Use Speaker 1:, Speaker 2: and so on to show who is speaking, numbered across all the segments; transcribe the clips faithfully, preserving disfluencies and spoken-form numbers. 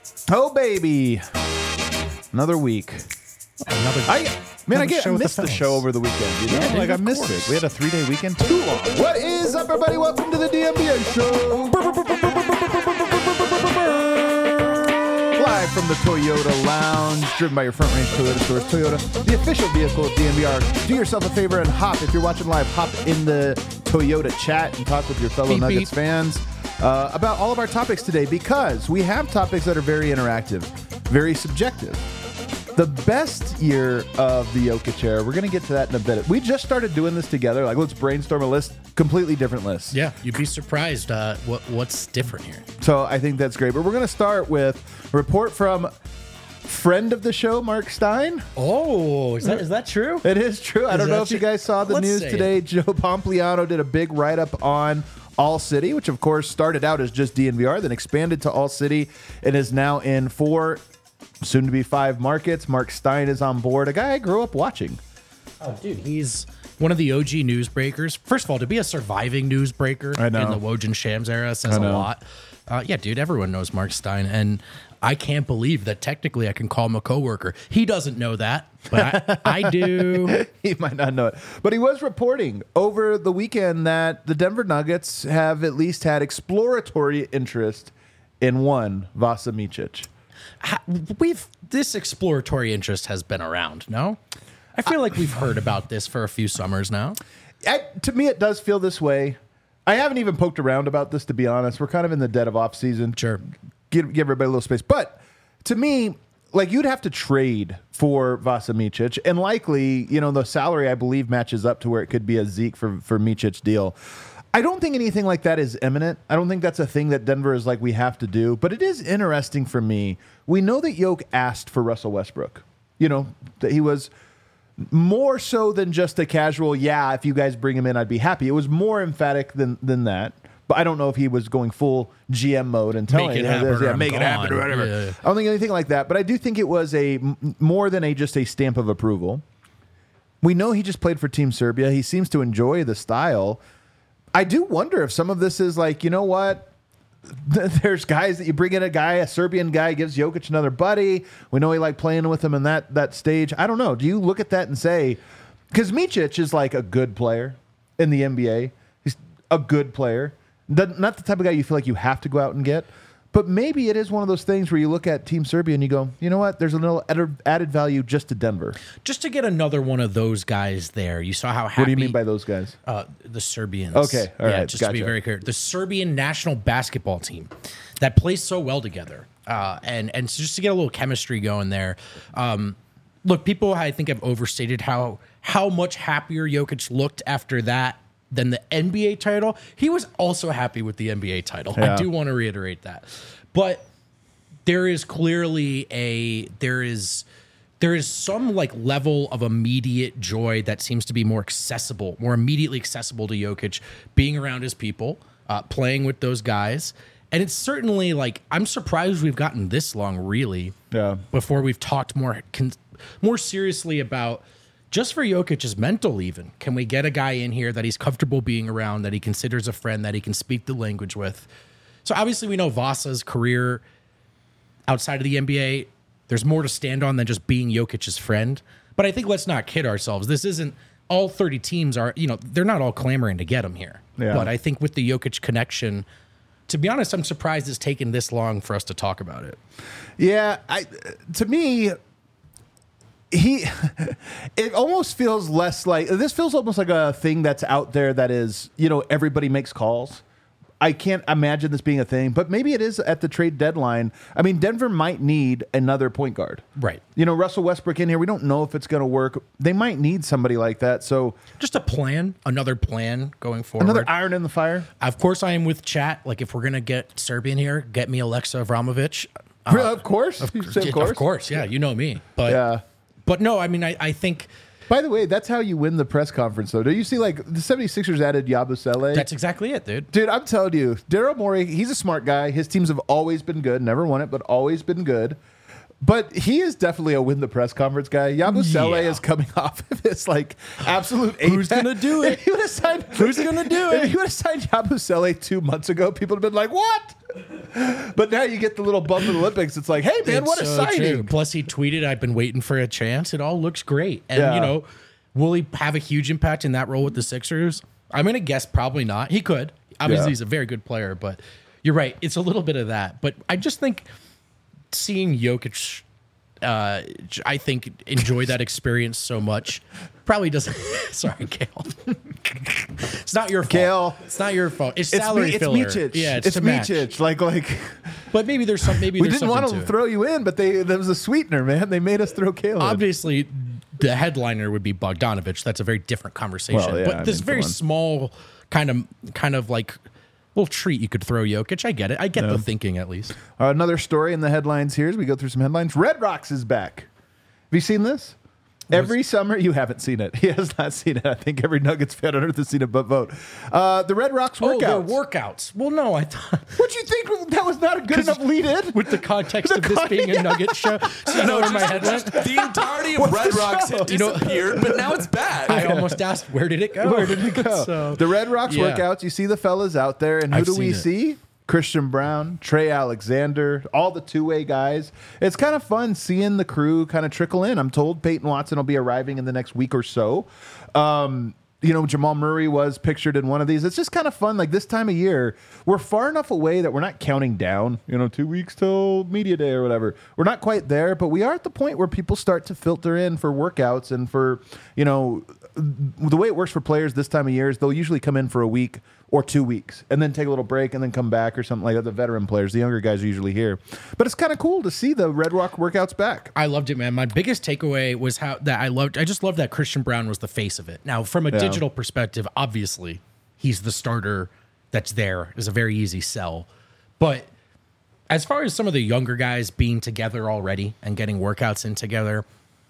Speaker 1: Oh, baby. Another week.
Speaker 2: Another,
Speaker 1: I Man, I
Speaker 2: another
Speaker 1: get
Speaker 2: show with
Speaker 1: missed
Speaker 2: the
Speaker 1: the,
Speaker 2: fellas.
Speaker 1: show over the weekend. You know?
Speaker 2: Yeah, dude,
Speaker 1: like, I
Speaker 2: of
Speaker 1: missed
Speaker 2: course.
Speaker 1: it. We had a three-day weekend. Too long. What is up, everybody? Welcome to the D M B A Show. Live from the Toyota Lounge, driven by your Front Range Toyota stores. Toyota, the official vehicle of D M V R. Do yourself a favor and hop. If you're watching live, hop in the Toyota chat and talk with your fellow
Speaker 2: Beep,
Speaker 1: Nuggets
Speaker 2: beep.
Speaker 1: fans uh, about all of our topics today, because we have topics that are very interactive, very subjective. The best year of the Jokic era, we're going to get to that in a bit. We just started doing this together. Like, let's brainstorm a list, completely different lists.
Speaker 2: Yeah, you'd be surprised uh, what what's different here.
Speaker 1: So I think that's great. But we're going to start with a report from friend of the show, Mark Stein.
Speaker 2: Oh, is that is that true?
Speaker 1: It is true. I
Speaker 2: Is
Speaker 1: don't know
Speaker 2: that
Speaker 1: if you
Speaker 2: true?
Speaker 1: guys saw the
Speaker 2: Let's
Speaker 1: news
Speaker 2: say
Speaker 1: today.
Speaker 2: it.
Speaker 1: Joe Pompliano did a big write-up on All City, which of course started out as just D N V R, then expanded to All City, and is now in four, soon to be five markets. Mark Stein is on board, a guy I grew up watching.
Speaker 2: Oh, dude, he's one of the O G newsbreakers. First of all, to be a surviving newsbreaker
Speaker 1: I know.
Speaker 2: in the Woj Shams era says
Speaker 1: I
Speaker 2: a
Speaker 1: know.
Speaker 2: lot. Uh, yeah, dude, everyone knows Mark Stein, and I can't believe that technically I can call him a coworker. He doesn't know that, but I, I do.
Speaker 1: He might not know it. But he was reporting over the weekend that the Denver Nuggets have at least had exploratory interest in one, Vasa Micic.
Speaker 2: Ha- We've this exploratory interest has been around. No, I feel like we've heard about this for a few summers now.
Speaker 1: I, to me, it does feel this way. I haven't even poked around about this, to be honest. We're kind of in the dead of off season.
Speaker 2: Sure.
Speaker 1: Give, give everybody a little space. But to me, like, you'd have to trade for Vasa Micic, and likely, you know, the salary, I believe, matches up to where it could be a Zeke for, for Micic deal. I don't think anything like that is imminent. I don't think that's a thing that Denver is like, we have to do. But it is interesting for me. We know that Yoke asked for Russell Westbrook. You know, that he was more so than just a casual, yeah, if you guys bring him in, I'd be happy. It was more emphatic than than that. But I don't know if he was going full G M mode and telling
Speaker 2: Make it
Speaker 1: you,
Speaker 2: happen or
Speaker 1: yeah,
Speaker 2: I'm
Speaker 1: make it happen or
Speaker 2: gone.
Speaker 1: whatever.
Speaker 2: Yeah, yeah.
Speaker 1: I don't think anything like that. But I do think it was a m- more than a just a stamp of approval. We know he just played for Team Serbia. He seems to enjoy the style. I do wonder if some of this is like, you know what? There's guys that you bring in, a guy, a Serbian guy gives Jokic another buddy. We know he liked playing with him in that that stage. I don't know. Do you look at that and say, because Micic is like a good player in the N B A. He's a good player. Doesn't- Not the type of guy you feel like you have to go out and get. But maybe it is one of those things where you look at Team Serbia and you go, you know what? There's a little added- added value just to Denver.
Speaker 2: Just to get another one of those guys there. You saw how happy.
Speaker 1: What do you mean by those guys?
Speaker 2: Uh, the Serbians.
Speaker 1: Okay, all
Speaker 2: yeah,
Speaker 1: right,
Speaker 2: just to be
Speaker 1: gotcha.
Speaker 2: very clear, the Serbian national basketball team that plays so well together, uh, and and just to get a little chemistry going there. Um, look, people I think have overstated how how much happier Jokic looked after that than the N B A title. He was also happy with the N B A title.
Speaker 1: Yeah.
Speaker 2: I do want to reiterate that, but there is clearly a there is. There is some like level of immediate joy that seems to be more accessible, more immediately accessible to Jokic, being around his people, uh, playing with those guys. And it's certainly like, I'm surprised we've gotten this long, really,
Speaker 1: Yeah.
Speaker 2: before we've talked more con- more seriously about just for Jokic's mental even. Can we get a guy in here that he's comfortable being around, that he considers a friend, that he can speak the language with? So obviously we know Vasa's career outside of the N B A, there's more to stand on than just being Jokic's friend. But I think let's not kid ourselves. This isn't all thirty teams are, you know, they're not all clamoring to get him here.
Speaker 1: Yeah.
Speaker 2: But I think with the Jokic connection, to be honest, I'm surprised it's taken this long for us to talk about it.
Speaker 1: Yeah, I to me, he it almost feels less like this feels almost like a thing that's out there that is, you know, everybody makes calls. I can't imagine this being a thing, but maybe it is at the trade deadline. I mean, Denver might need another point guard.
Speaker 2: Right.
Speaker 1: You know, Russell Westbrook in here, we don't know if it's going to work. They might need somebody like that. So
Speaker 2: Just a plan, another plan going forward.
Speaker 1: another iron in the fire.
Speaker 2: Of course, I am with chat. Like, if we're going to get Serbian here, get me Alexa Avramovic.
Speaker 1: Really, of course. Of,
Speaker 2: Of course. Of course. Yeah, you know me. But,
Speaker 1: Yeah.
Speaker 2: but no, I mean, I, I think
Speaker 1: By the way, that's how you win the press conference, though. Do you see, like, the 76ers added Yabusele?
Speaker 2: that's exactly it, dude.
Speaker 1: Dude, I'm telling you, Daryl Morey, he's a smart guy. His teams have always been good. Never won it, but always been good. But he is definitely a win the press conference guy. Yabusele
Speaker 2: Yeah.
Speaker 1: is coming off of this like absolute.
Speaker 2: Who's
Speaker 1: apex.
Speaker 2: gonna do it?
Speaker 1: If he would have signed,
Speaker 2: Who's gonna do
Speaker 1: If
Speaker 2: it?
Speaker 1: he would have signed Yabusele two months ago, people would have been like, "What?" But now you get the little bump in the Olympics. It's like, "Hey man,
Speaker 2: It's
Speaker 1: what a
Speaker 2: so
Speaker 1: signing!"
Speaker 2: true. Plus, he tweeted, "I've been waiting for a chance. It all looks great." And
Speaker 1: Yeah.
Speaker 2: you know, will he have a huge impact in that role with the Sixers? I'm gonna guess probably not. He could. Obviously,
Speaker 1: Yeah.
Speaker 2: he's a very good player, but you're right. It's a little bit of that. But I just think seeing Jokic, uh, I think enjoy that experience so much. Probably doesn't. Sorry, Kale. It's not your fault.
Speaker 1: Kale.
Speaker 2: It's not your fault. It's
Speaker 1: It's
Speaker 2: salary
Speaker 1: me, it's
Speaker 2: filler.
Speaker 1: Mičić.
Speaker 2: Yeah, it's,
Speaker 1: it's
Speaker 2: to match.
Speaker 1: Mičić. Like like
Speaker 2: But maybe there's some. Maybe
Speaker 1: we
Speaker 2: there's
Speaker 1: didn't want
Speaker 2: something
Speaker 1: to
Speaker 2: to it.
Speaker 1: throw you in, but they there was a sweetener, man. They made us throw Caleb.
Speaker 2: Obviously, the headliner would be Bogdanovich. That's a very different conversation.
Speaker 1: Well, yeah,
Speaker 2: but
Speaker 1: I
Speaker 2: this
Speaker 1: mean,
Speaker 2: very
Speaker 1: come on.
Speaker 2: small kind of kind of like little treat you could throw Jokic. I get it. I get the thinking at least.
Speaker 1: Uh, another story in the headlines here as we go through some headlines. Red Rocks is back. Have you seen this? Every summer, you haven't seen it. He has not seen it. I think every Nuggets fan on earth has seen it, but vote. Uh, the Red Rocks
Speaker 2: Oh, they're
Speaker 1: workouts.
Speaker 2: workouts. Well, no, I thought
Speaker 1: What do you think? That was not a good enough lead in.
Speaker 2: with the context
Speaker 1: The
Speaker 2: of this
Speaker 1: con-
Speaker 2: being a Nugget show. So you know where my head went?
Speaker 3: The entirety of Red
Speaker 1: the
Speaker 3: Rocks
Speaker 1: show?
Speaker 3: had
Speaker 2: You know-
Speaker 3: disappeared, but now it's back.
Speaker 2: I almost asked, where did it go?
Speaker 1: Where did it go?
Speaker 2: So-
Speaker 1: the Red Rocks
Speaker 2: yeah.
Speaker 1: workouts. You see the fellas out there, and who
Speaker 2: I've
Speaker 1: do we
Speaker 2: seen it.
Speaker 1: see? Christian Brown, Trey Alexander, all the two-way guys. It's kind of fun seeing the crew kind of trickle in. I'm told Peyton Watson will be arriving in the next week or so. Um, you know, Jamal Murray was pictured in one of these. It's just kind of fun. Like this time of year, we're far enough away that we're not counting down, you know, two weeks till media day or whatever. We're not quite there, but we are at the point where people start to filter in for workouts and for, you know, the way it works for players this time of year is they'll usually come in for a week or two weeks and then take a little break and then come back or something like that. The veteran players, the younger guys are usually here. But it's kind of cool to see the Red Rock workouts back.
Speaker 2: I loved it, man. My biggest takeaway was how that I loved. I just loved that Christian Brown was the face of it. Now, from a
Speaker 1: Yeah.
Speaker 2: digital perspective, obviously, he's the starter that's there. It's a very easy sell. But as far as some of the younger guys being together already and getting workouts in together,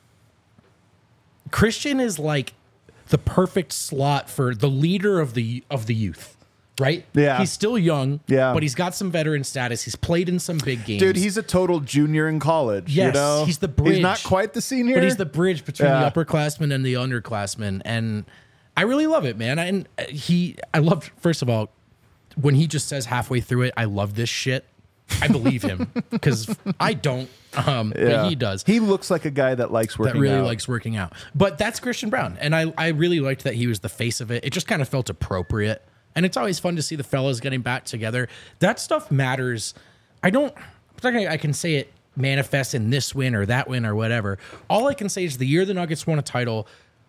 Speaker 2: Christian is like the perfect slot for the leader of the of the youth. Right?
Speaker 1: Yeah.
Speaker 2: He's still young,
Speaker 1: Yeah.
Speaker 2: but he's got some veteran status. He's played in some big games.
Speaker 1: Dude, he's a total junior in college.
Speaker 2: Yes,
Speaker 1: you know?
Speaker 2: he's the bridge.
Speaker 1: He's not quite the senior.
Speaker 2: But he's the bridge between
Speaker 1: Yeah.
Speaker 2: the upperclassmen and the underclassmen, and I really love it, man. And he, I love. First of all, when he just says halfway through it, "I love this shit," I believe him because I don't, um,
Speaker 1: Yeah.
Speaker 2: but he does.
Speaker 1: He looks like a guy that likes working
Speaker 2: That really
Speaker 1: out.
Speaker 2: likes working out. But that's Christian Brown, and I, I really liked that he was the face of it. It just kind of felt appropriate. And it's always fun to see the fellas getting back together. That stuff matters. I don't, I'm not gonna- I can say it manifests in this win or that win or whatever. All I can say is the year the Nuggets won a title,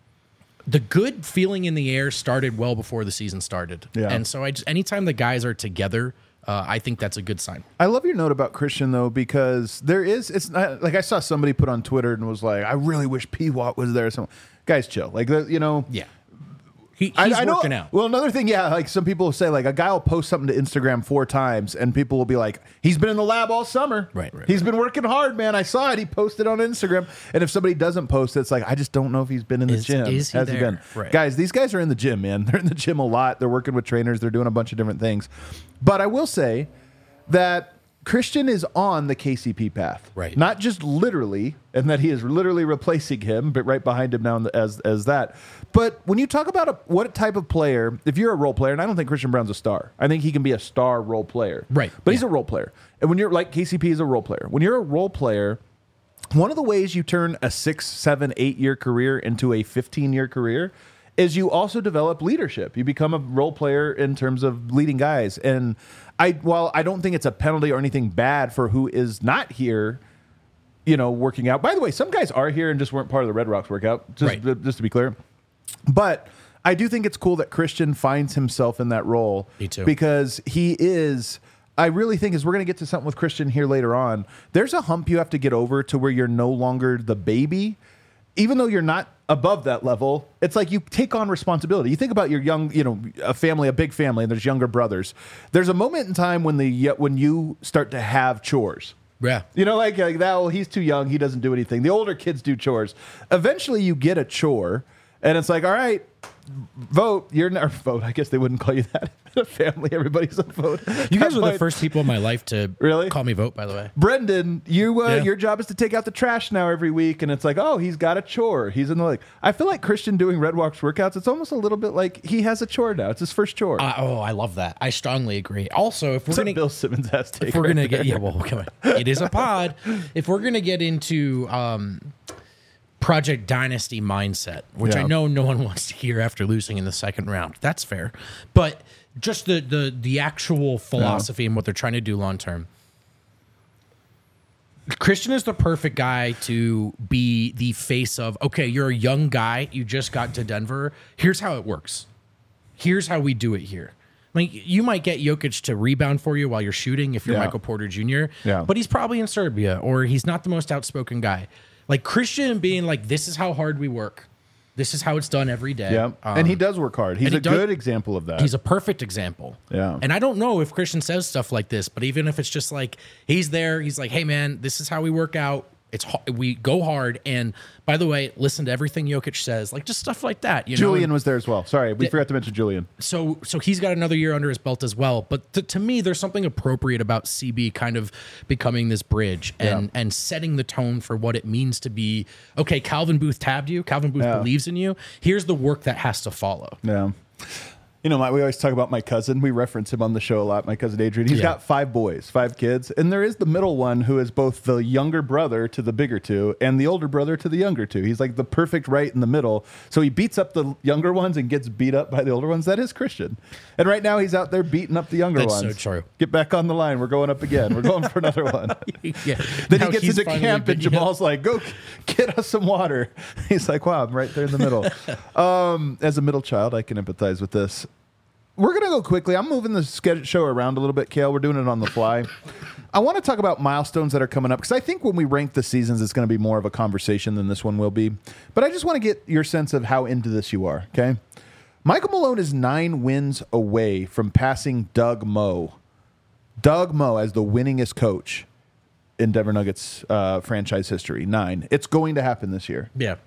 Speaker 2: the good feeling in the air started well before the season started.
Speaker 1: Yeah.
Speaker 2: And so I just, anytime the guys are together, uh, I think that's a good sign.
Speaker 1: I love your note about Christian though, because there is, it's not like I saw somebody put on Twitter and was like, I really wish P Watt was there. So guys, chill. Like, the, you know,
Speaker 2: Yeah. He, he's
Speaker 1: I, I know,
Speaker 2: working out.
Speaker 1: Well, another thing, yeah, like some people will say, like a guy will post something to Instagram four times, and people will be like, "He's been in the lab all summer.
Speaker 2: Right, right,
Speaker 1: He's been working hard, man. I saw it. He posted on Instagram." And if somebody doesn't post it, it's like, I just don't know if he's been in the
Speaker 2: Is-
Speaker 1: gym.
Speaker 2: is he
Speaker 1: Has he
Speaker 2: there?
Speaker 1: been?
Speaker 2: Right.
Speaker 1: Guys, these guys are in the gym, man. They're in the gym a lot. They're working with trainers. They're doing a bunch of different things. But I will say that Christian is on the K C P path,
Speaker 2: Right.
Speaker 1: Not just literally, and that he is literally replacing him, but right behind him now as as that. But when you talk about a, what type of player, if you're a role player, and I don't think Christian Brown's a star, I think he can be a star role player,
Speaker 2: Right,
Speaker 1: But he's
Speaker 2: yeah.
Speaker 1: a role player, and when you're like K C P is a role player, when you're a role player, one of the ways you turn a six, seven, eight year career into a fifteen year career is you also develop leadership. You become a role player in terms of leading guys. And I, while I don't think it's a penalty or anything bad for who is not here, you know, working out. By the way, some guys are here and just weren't part of the Red Rocks workout, just,
Speaker 2: Right.
Speaker 1: just to be clear. But I do think it's cool that Christian finds himself in that role.
Speaker 2: Me too.
Speaker 1: Because he is, I really think, as we're going to get to something with Christian here later on, there's a hump you have to get over to where you're no longer the baby. Even though you're not above that level, it's like you take on responsibility. You think about your young, you know, a family, a big family, and there's younger brothers. There's a moment in time when the when you start to have chores.
Speaker 2: Yeah.
Speaker 1: You know, like, like that, well, he's too young. He doesn't do anything. The older kids do chores. Eventually, you get a chore. And it's like, all right, vote. You're not vote. I guess they wouldn't call you that. Family, everybody's a vote.
Speaker 2: You guys
Speaker 1: That
Speaker 2: were the
Speaker 1: point-
Speaker 2: first people in my life to
Speaker 1: Really?
Speaker 2: call me vote, by the way.
Speaker 1: Brendan, you uh,
Speaker 2: Yeah.
Speaker 1: your job is to take out the trash now every week, and it's like, oh, he's got a chore. He's in the like. I feel like Christian doing Red Walks workouts. It's almost a little bit like he has a chore now. It's his first chore.
Speaker 2: Uh, oh, I love that. I strongly agree. Also, if we're
Speaker 1: It's a
Speaker 2: going to
Speaker 1: Bill Simmons ass take.
Speaker 2: if we're
Speaker 1: right
Speaker 2: gonna
Speaker 1: there.
Speaker 2: get yeah, well, come on. It is a pod. If we're gonna get into um, Project Dynasty mindset, which
Speaker 1: Yeah.
Speaker 2: I know no one wants to hear after losing in the second round, that's fair. But just the the the actual philosophy and what they're trying to do long term. Christian is the perfect guy to be the face of, okay, you're a young guy, you just got to Denver. Here's how it works. Here's how we do it here. Like, you might get Jokic to rebound for you while you're shooting if you're
Speaker 1: Yeah.
Speaker 2: Michael Porter Junior
Speaker 1: Yeah.
Speaker 2: But he's probably in Serbia, or he's not the most outspoken guy. Like Christian being like, this is how hard we work. This is how it's done every day.
Speaker 1: Yeah,
Speaker 2: Um,
Speaker 1: and he does work hard. He's
Speaker 2: and he
Speaker 1: a
Speaker 2: does-
Speaker 1: good example of that.
Speaker 2: He's a perfect example.
Speaker 1: Yeah.
Speaker 2: And I don't know if Christian says stuff like this, but even if it's just like he's there, he's like, "Hey man, this is how we work out. It's ho- we go hard." And by the way, listen to everything Jokic says, like just stuff like that. You
Speaker 1: Julian
Speaker 2: know?
Speaker 1: was there as well. Sorry, we forgot to mention Julian.
Speaker 2: So so he's got another year under his belt as well. But to, to me, there's something appropriate about C B kind of becoming this bridge and
Speaker 1: Yeah.
Speaker 2: and setting the tone for what it means to be. Okay, Calvin Booth tabbed you. Calvin Booth
Speaker 1: Yeah.
Speaker 2: believes in you. Here's the work that has to follow.
Speaker 1: Yeah. You know, my, we always talk about my cousin. We reference him on the show a lot, my cousin Adrian. He's
Speaker 2: Yeah.
Speaker 1: got five boys, five kids. And there is the middle one who is both the younger brother to the bigger two and the older brother to the younger two. He's like the perfect right in the middle. So he beats up the younger ones and gets beat up by the older ones. That is Christian. And right now he's out there beating up the younger
Speaker 2: That's so
Speaker 1: ones.
Speaker 2: true.
Speaker 1: Get back on the line. We're going up again. We're going for another one.
Speaker 2: Yeah.
Speaker 1: Then
Speaker 2: Now
Speaker 1: he gets
Speaker 2: he's
Speaker 1: into
Speaker 2: finally
Speaker 1: camp
Speaker 2: been-
Speaker 1: and Jamal's like, go get us some water. He's like, wow, I'm right there in the middle. um, as a middle child, I can empathize with this. We're going to go quickly. I'm moving the schedule show around a little bit, Kale. We're doing it on the fly. I want to talk about milestones that are coming up because I think when we rank the seasons, it's going to be more of a conversation than this one will be. But I just want to get your sense of how into this you are, okay? Michael Malone is nine wins away from passing Doug Moe. Doug Moe as the winningest coach in Denver Nuggets uh, franchise history. Nine. It's going to happen this year.
Speaker 2: Yeah.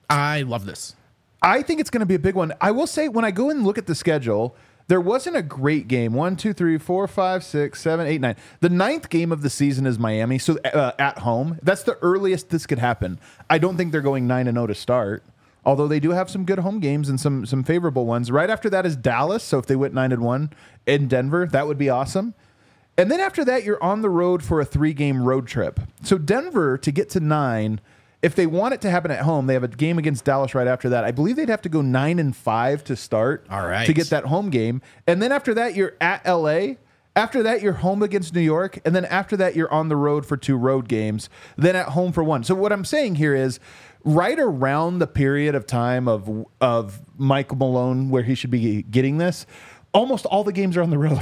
Speaker 2: I love this.
Speaker 1: I think it's going to be a big one. I will say, when I go and look at the schedule, there wasn't a great game. One, two, three, four, five, six, seven, eight, nine. The ninth game of the season is Miami, so uh, at home. That's the earliest this could happen. I don't think they're going nine and zero to start. Although they do have some good home games and some some favorable ones. Right after that is Dallas. So if they went nine and one in Denver, that would be awesome. And then after that, you're on the road for a three game road trip. So Denver to get to nine. If they want it to happen at home, they have a game against Dallas right after that. I believe they'd have to go nine and five to start.
Speaker 2: All right.
Speaker 1: To get that home game, and then after that, you're at L A. After that, you're home against New York, and then after that, you're on the road for two road games. Then at home for one. So what I'm saying here is, right around the period of time of of Michael Malone where he should be getting this, almost all the games are on the road,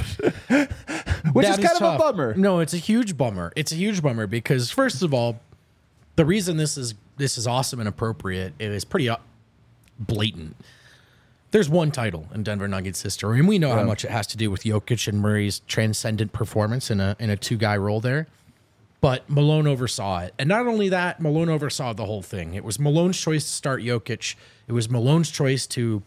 Speaker 1: which
Speaker 2: That
Speaker 1: is kind of
Speaker 2: tough.
Speaker 1: a bummer.
Speaker 2: No, it's a huge bummer. It's a huge bummer because first of all, the reason this is this is awesome and appropriate, it is pretty uh, blatant. There's one title in Denver Nuggets history, and we know how much it has to do with Jokic and Murray's transcendent performance in a in a two guy role there. But Malone oversaw it, and not only that, Malone oversaw the whole thing. It was Malone's choice to start Jokic. It was Malone's choice to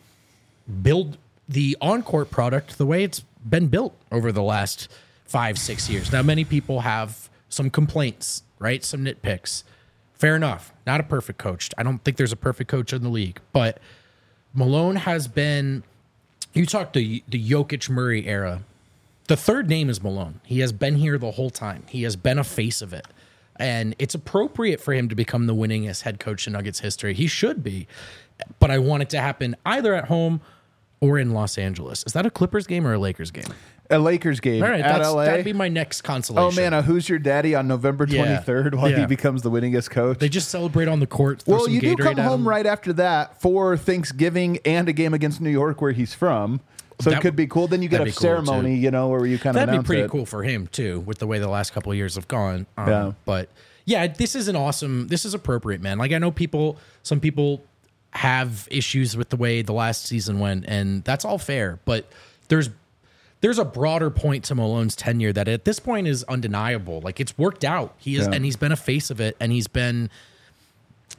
Speaker 2: build the on-court product the way it's been built over the last five, six years. Now, many people have some complaints, right? Some nitpicks. Fair enough. Not a perfect coach. I don't think there's a perfect coach in the league, but Malone has been, you talk the the Jokic Murray era. The third name is Malone. He has been here the whole time. He has been a face of it. And it's appropriate for him to become the winningest head coach in Nuggets history. He should be. But I want it to happen either at home or in Los Angeles. Is that a Clippers game or a Lakers game?
Speaker 1: A Lakers game
Speaker 2: All right,
Speaker 1: at
Speaker 2: that's,
Speaker 1: L A.
Speaker 2: that'd be my next consolation.
Speaker 1: Oh man, a Who's Your Daddy on November
Speaker 2: Yeah.
Speaker 1: twenty-third while he
Speaker 2: Yeah.
Speaker 1: becomes the winningest coach.
Speaker 2: They just celebrate on the court. Throw
Speaker 1: Well,
Speaker 2: some
Speaker 1: you do
Speaker 2: Gatorade
Speaker 1: come
Speaker 2: at
Speaker 1: home
Speaker 2: him.
Speaker 1: right after that for Thanksgiving and a game against New York where he's from. So
Speaker 2: That-
Speaker 1: it could be cool. Then you get a
Speaker 2: that'd be cool,
Speaker 1: ceremony,
Speaker 2: too.
Speaker 1: you know, where you kind of
Speaker 2: That'd be
Speaker 1: announce
Speaker 2: pretty
Speaker 1: it.
Speaker 2: cool for him too, with the way the last couple of years have gone. Um,
Speaker 1: Yeah.
Speaker 2: But yeah, this is an awesome. This is appropriate, man. Like I know people, some people have issues with the way the last season went, and that's all fair. But there's there's a broader point to Malone's tenure that at this point is undeniable. Like it's worked out. He is,
Speaker 1: Yeah.
Speaker 2: and he's been a face of it, and he's been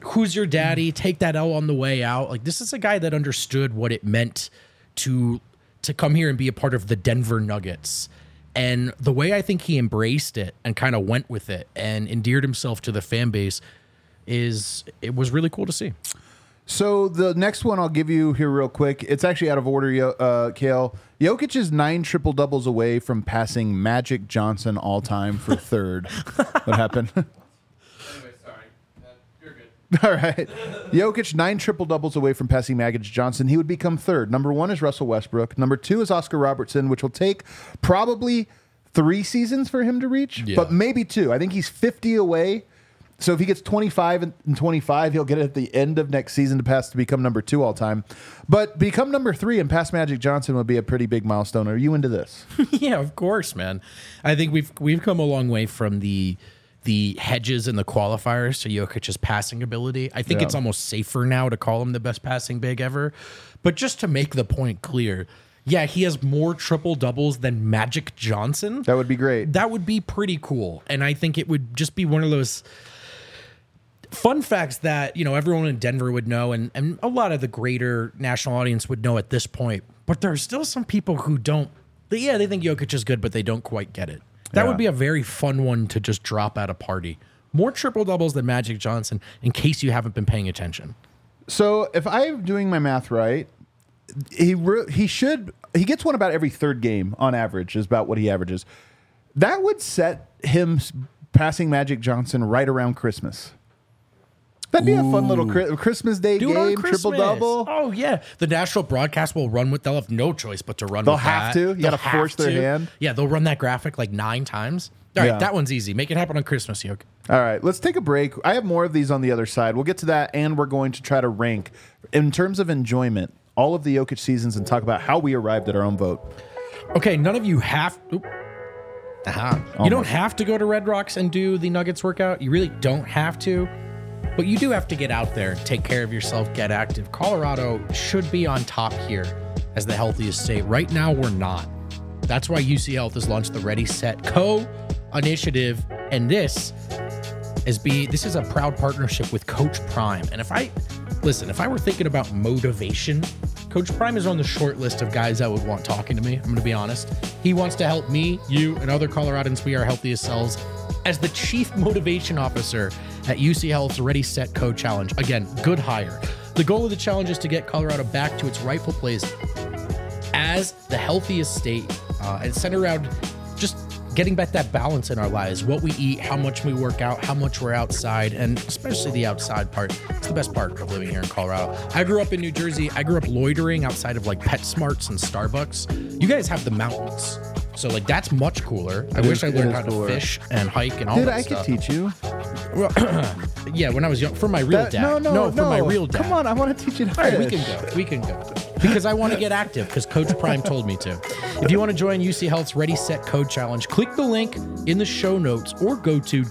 Speaker 2: who's your daddy? Take that L on the way out. Like, this is a guy that understood what it meant to to come here and be a part of the Denver Nuggets. And the way I think he embraced it and kind of went with it and endeared himself to the fan base is it was really cool to see.
Speaker 1: So the next one I'll give you here real quick. It's actually out of order, Yo- uh, Kale. Jokic is nine triple doubles away from passing Magic Johnson all time for third. What happened?
Speaker 3: Anyway, sorry. Uh, you're good.
Speaker 1: All right. Jokic, nine triple doubles away from passing Magic Johnson. He would become third. Number one is Russell Westbrook. Number two is Oscar Robertson, which will take probably three seasons for him to reach,
Speaker 2: Yeah.
Speaker 1: but maybe two. I think he's fifty away. So if he gets twenty-five and twenty-five, he'll get it at the end of next season to pass to become number two all time. But become number three and pass Magic Johnson would be a pretty big milestone. Are you into this?
Speaker 2: Yeah, of course, man. I think we've we've come a long way from the the hedges and the qualifiers to Jokic's passing ability. I think
Speaker 1: Yeah.
Speaker 2: it's almost safer now to call him the best passing big ever. But just to make the point clear, yeah, he has more triple doubles than Magic Johnson.
Speaker 1: That would be great.
Speaker 2: That would be pretty cool. And I think it would just be one of those fun facts that, you know, everyone in Denver would know and, and a lot of the greater national audience would know at this point. But there are still some people who don't. They, yeah, they think Jokic is good, but they don't quite get it. That
Speaker 1: Yeah.
Speaker 2: would be a very fun one to just drop at a party. More triple doubles than Magic Johnson, in case you haven't been paying attention.
Speaker 1: So if I'm doing my math right, he re- he should he gets one about every third game on average is about what he averages. That would set him s- passing Magic Johnson right around Christmas. That'd be a fun little Chri- Christmas Day
Speaker 2: Do it on
Speaker 1: game, triple
Speaker 2: Christmas.
Speaker 1: double.
Speaker 2: Oh yeah, the national broadcast will run with. They'll have no choice but to run.
Speaker 1: They'll
Speaker 2: with
Speaker 1: have
Speaker 2: that.
Speaker 1: to? You
Speaker 2: They'll
Speaker 1: gotta
Speaker 2: have
Speaker 1: force their
Speaker 2: to.
Speaker 1: hand?
Speaker 2: Yeah, they'll run that graphic like nine times. All right,
Speaker 1: Yeah.
Speaker 2: that one's easy. Make it happen on Christmas, Yoke.
Speaker 1: All right, let's take a break. I have more of these on the other side. We'll get to that, and we're going to try to rank in terms of enjoyment all of the Jokic seasons and talk about how we arrived at our own vote.
Speaker 2: Okay, none of you have. Oop. Aha. You don't have to go to Red Rocks and do the Nuggets workout. You really don't have to. But you do have to get out there, take care of yourself, get active. Colorado should be on top here as the healthiest state. Right now, we're not. That's why U C Health has launched the Ready, Set, Co initiative. And this is be this is a proud partnership with Coach Prime. And if I listen, if I were thinking about motivation, Coach Prime is on the short list of guys that would want talking to me. I'm going to be honest. He wants to help me, you, and other Coloradans be our healthiest selves as the chief motivation officer at U C Health's Ready, Set, Co challenge. Again, good hire. The goal of the challenge is to get Colorado back to its rightful place as the healthiest state uh, and center around just getting back that balance in our lives, what we eat, how much we work out, how much we're outside, and especially the outside part. It's the best part of living here in Colorado. I grew up in New Jersey. I grew up loitering outside of like PetSmarts and Starbucks. You guys have the mountains. So like that's much cooler. I
Speaker 1: It
Speaker 2: wish
Speaker 1: is-
Speaker 2: I
Speaker 1: it
Speaker 2: learned
Speaker 1: is
Speaker 2: how to
Speaker 1: cooler.
Speaker 2: fish and hike and all
Speaker 1: Dude,
Speaker 2: that
Speaker 1: I
Speaker 2: stuff.
Speaker 1: could teach you.
Speaker 2: Well, yeah, when I was young, for my real
Speaker 1: That-
Speaker 2: dad.
Speaker 1: no, no, no.
Speaker 2: for my real dad.
Speaker 1: Come on, I want to teach you to
Speaker 2: All right, we
Speaker 1: fish.
Speaker 2: can go. We can go. Because I want to get active because Coach Prime told me to. If you want to join U C Health's Ready, Set, Code Challenge, click the link in the show notes or go to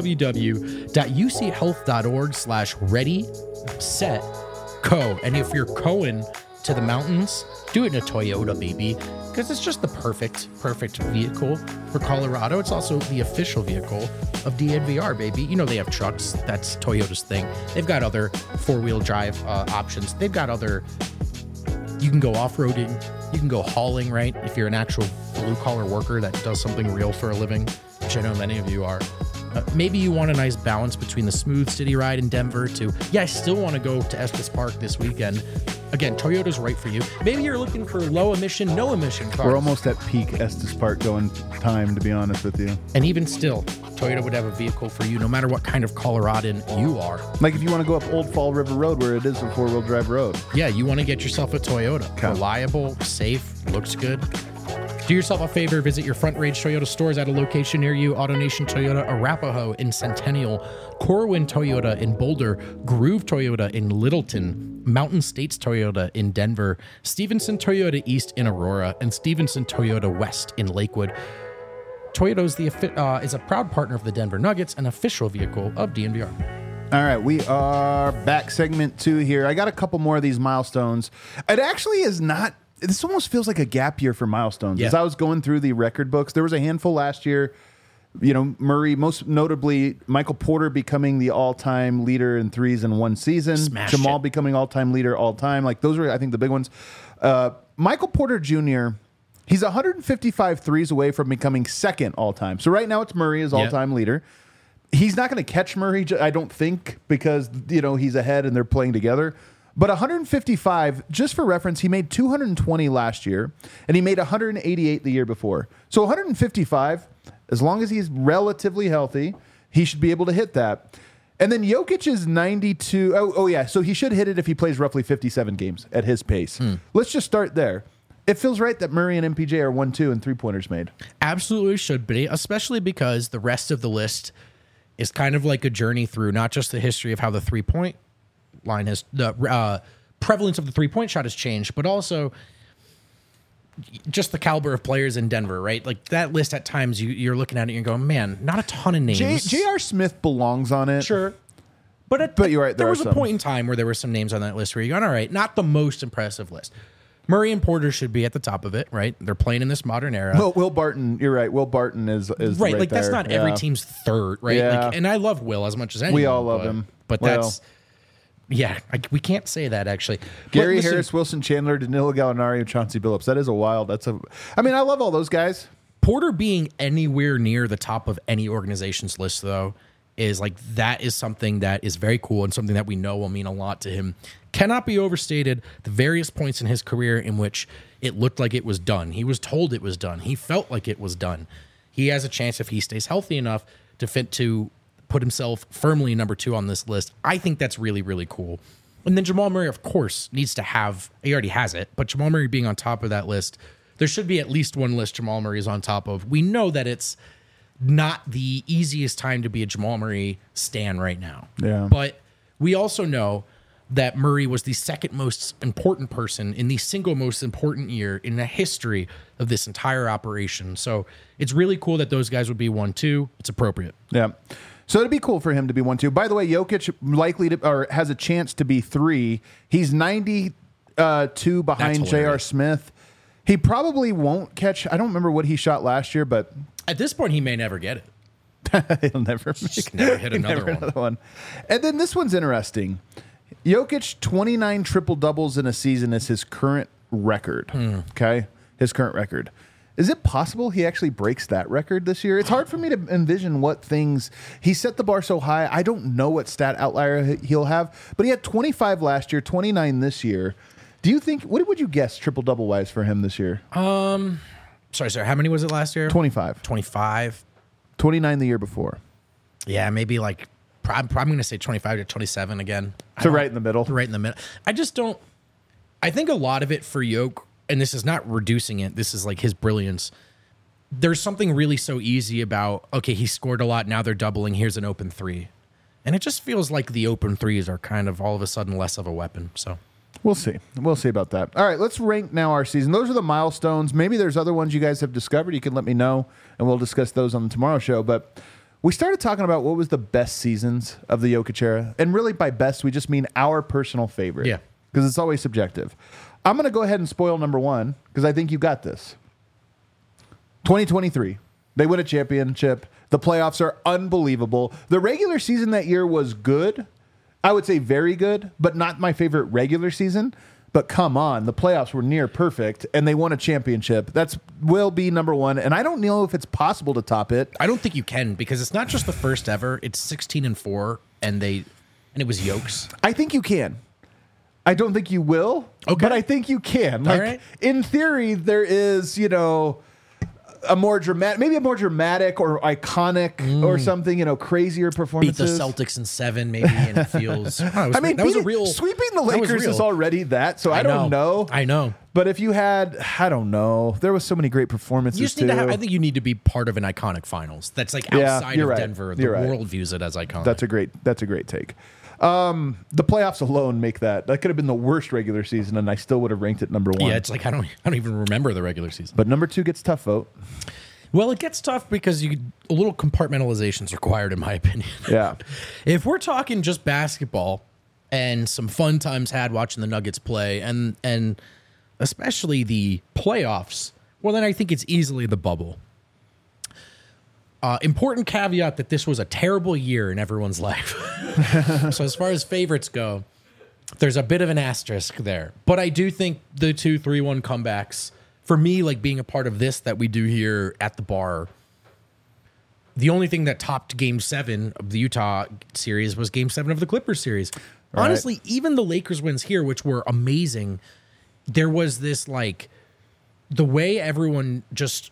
Speaker 2: www.uchealth.org slash ready, set, co. And if you're going to the mountains, do it in a Toyota, baby, because it's just the perfect, perfect vehicle for Colorado. It's also the official vehicle of D N V R, baby. You know, they have trucks. That's Toyota's thing. They've got other four-wheel drive uh, options. They've got other, you can go off-roading. You can go hauling, right? If you're an actual blue-collar worker that does something real for a living, which I know many of you are. Uh, maybe you want a nice balance between the smooth city ride in Denver to, yeah, I still want to go to Estes Park this weekend. Again, Toyota's right for you. Maybe you're looking for low emission, no emission cars.
Speaker 1: We're almost at peak Estes Park going time, to be honest with you.
Speaker 2: And even still, Toyota would have a vehicle for you no matter what kind of Coloradan you are.
Speaker 1: Like if you want to go up Old Fall River Road where it is a four-wheel drive road.
Speaker 2: Yeah, you want to get yourself a Toyota.
Speaker 1: Okay.
Speaker 2: Reliable, safe, looks good. Do yourself a favor, visit your Front Range Toyota stores at a location near you. AutoNation Toyota Arapahoe in Centennial, Corwin Toyota in Boulder, Groove Toyota in Littleton, Mountain States Toyota in Denver, Stevenson Toyota East in Aurora, and Stevenson Toyota West in Lakewood. Toyota is, the, affi- uh, is a proud partner of the Denver Nuggets, an official vehicle of D N V R.
Speaker 1: All right, we are back segment two here. I got a couple more of these milestones. It actually is not, this almost feels like a gap year for milestones.
Speaker 2: Yeah.
Speaker 1: As I was going through the record books, there was a handful last year You know, Murray, most notably, Michael Porter becoming the all-time leader in threes in one season.
Speaker 2: Smashed
Speaker 1: Jamal
Speaker 2: it.
Speaker 1: becoming all-time leader all-time. Like, those are, I think, the big ones. Uh, Michael Porter Junior, he's one hundred fifty-five threes away from becoming second all-time. So right now it's Murray as all-time
Speaker 2: Yep.
Speaker 1: leader. He's not going to catch Murray, I don't think, because, you know, he's ahead and they're playing together. But one hundred fifty-five, just for reference, he made two hundred twenty last year, and he made one hundred eighty-eight the year before. So one hundred fifty-five, as long as he's relatively healthy, he should be able to hit that. And then Jokic is ninety-two. Oh, oh yeah, so he should hit it if he plays roughly fifty-seven games at his pace.
Speaker 2: Hmm.
Speaker 1: Let's just start there. It feels right that Murray and M P J are one two and three-pointers made.
Speaker 2: Absolutely should be, especially because the rest of the list is kind of like a journey through not just the history of how the three-point line has, the uh, prevalence of the three-point shot has changed, but also just the caliber of players in Denver, right? Like that list at times you, you're looking at it and you're going, man, not a ton of names.
Speaker 1: J- J.R. Smith belongs on it.
Speaker 2: Sure. But, at,
Speaker 1: But you're right,
Speaker 2: there,
Speaker 1: there
Speaker 2: was
Speaker 1: are
Speaker 2: a
Speaker 1: some.
Speaker 2: point in time where there were some names on that list where you're going, all right, not the most impressive list. Murray and Porter should be at the top of it, right? They're playing in this modern era.
Speaker 1: Will, Will Barton, you're right. Will Barton is, is
Speaker 2: right,
Speaker 1: right
Speaker 2: like that's
Speaker 1: there.
Speaker 2: not every
Speaker 1: Yeah.
Speaker 2: team's third, right?
Speaker 1: Yeah.
Speaker 2: Like, and I love Will as much as anyone.
Speaker 1: We all love
Speaker 2: but,
Speaker 1: him.
Speaker 2: But
Speaker 1: Well.
Speaker 2: that's, yeah, I, we can't say that actually.
Speaker 1: Gary
Speaker 2: But listen,
Speaker 1: Harris, Wilson Chandler, Danilo Gallinari, Chauncey Billups. That is a wild. That's a. I mean, I love all those guys.
Speaker 2: Porter being anywhere near the top of any organization's list, though, is like that is something that is very cool and something that we know will mean a lot to him. Cannot be overstated. The various points in his career in which it looked like it was done. He was told it was done. He felt like it was done. He has a chance if he stays healthy enough to fit to put himself firmly number two on this list. I think that's really, really cool. And then Jamal Murray, of course, needs to have, he already has it, but Jamal Murray being on top of that list, there should be at least one list Jamal Murray is on top of. We know that it's not the easiest time to be a Jamal Murray stan right now.
Speaker 1: Yeah.
Speaker 2: But we also know that Murray was the second most important person in the single most important year in the history of this entire operation. So it's really cool that those guys would be one, two. It's appropriate.
Speaker 1: Yeah. So it'd be cool for him to be one two. By the way, Jokic likely to or has a chance to be three. He's ninety-two behind
Speaker 2: That's
Speaker 1: J R.
Speaker 2: hilarious.
Speaker 1: Smith. He probably won't catch. I don't remember what he shot last year, but
Speaker 2: At this point, he may never get it.
Speaker 1: he'll never make
Speaker 2: Just never hit another
Speaker 1: never
Speaker 2: one.
Speaker 1: another one. And then this one's interesting. Jokic, twenty-nine triple doubles in a season is his current record.
Speaker 2: Hmm.
Speaker 1: Okay, his current record. Is it possible he actually breaks that record this year? It's hard for me to envision what things he set the bar so high. I don't know what stat outlier he'll have, but he had twenty-five last year, twenty-nine this year. Do you think? What would you guess triple double wise for him this year?
Speaker 2: Sorry, sorry. How many was it last year?
Speaker 1: twenty-five,
Speaker 2: twenty-five.
Speaker 1: twenty-nine the year before.
Speaker 2: Yeah, maybe like, I'm probably going to say twenty-five to twenty-seven again. I
Speaker 1: So
Speaker 2: don't-
Speaker 1: right in the middle.
Speaker 2: right in the middle. I just don't. I think a lot of it for Yoke, and this is not reducing it. This is like his brilliance. There's something really so easy about, okay, he scored a lot. Now they're doubling. Here's an open three. And it just feels like the open threes are kind of all of a sudden less of a weapon. So
Speaker 1: We'll see. We'll see about that. All right, let's rank now our season. Those are the milestones. Maybe there's other ones you guys have discovered. You can let me know, and we'll discuss those on the tomorrow show. But we started talking about what was the best seasons of the Jokic era. And really by best, we just mean our personal favorite.
Speaker 2: Yeah.
Speaker 1: Because it's always subjective. I'm going to go ahead and spoil number one because I think you got this. twenty twenty-three. They win a championship. The playoffs are unbelievable. The regular season that year was good. I would say very good, but not my favorite regular season. But come on, the playoffs were near perfect, and they won a championship. That's will be number one, and I don't know if it's possible to top it.
Speaker 2: I don't think you can, because it's not just the first ever. It's sixteen and four, and they and it was Yokes.
Speaker 1: I think you can. I don't think you will,
Speaker 2: Okay.
Speaker 1: but I think you can. Like
Speaker 2: right.
Speaker 1: in theory, there is, you know, a more dramatic, maybe a more dramatic or iconic or something, you know, crazier
Speaker 2: Beat
Speaker 1: performances.
Speaker 2: the Celtics in seven, maybe, and it feels. Oh, it was-
Speaker 1: I mean,
Speaker 2: that was a
Speaker 1: beating-
Speaker 2: real
Speaker 1: sweeping the
Speaker 2: that was
Speaker 1: Lakers is
Speaker 2: real.
Speaker 1: already that. So I, don't know.
Speaker 2: I know.
Speaker 1: But if you had, I don't know, there was so many great performances
Speaker 2: You just
Speaker 1: too.
Speaker 2: need to have. I think you need to be part of an iconic finals. That's like
Speaker 1: Yeah,
Speaker 2: outside
Speaker 1: you're
Speaker 2: of
Speaker 1: right.
Speaker 2: Denver. The
Speaker 1: You're right.
Speaker 2: world views it as iconic.
Speaker 1: That's a great. That's a great take. Um, the playoffs alone make that. That could have been the worst regular season, and I still would have ranked it number one.
Speaker 2: yeah. It's like I don't. I don't even remember the regular season.
Speaker 1: But number two gets tough vote.
Speaker 2: Well, it gets tough because you a little compartmentalization is required, in my opinion.
Speaker 1: Yeah.
Speaker 2: If we're talking just basketball and some fun times had watching the Nuggets play, and and especially the playoffs, well, then I think it's easily the bubble. Uh, important caveat that this was a terrible year in everyone's life. So as far as favorites go, there's a bit of an asterisk there. But I do think the two three one comebacks, for me, like being a part of this that we do here at the bar, the only thing that topped game seven of the Utah series was game seven of the Clippers series.
Speaker 1: Right.
Speaker 2: Honestly, even the Lakers wins here, which were amazing, there was this like the way everyone just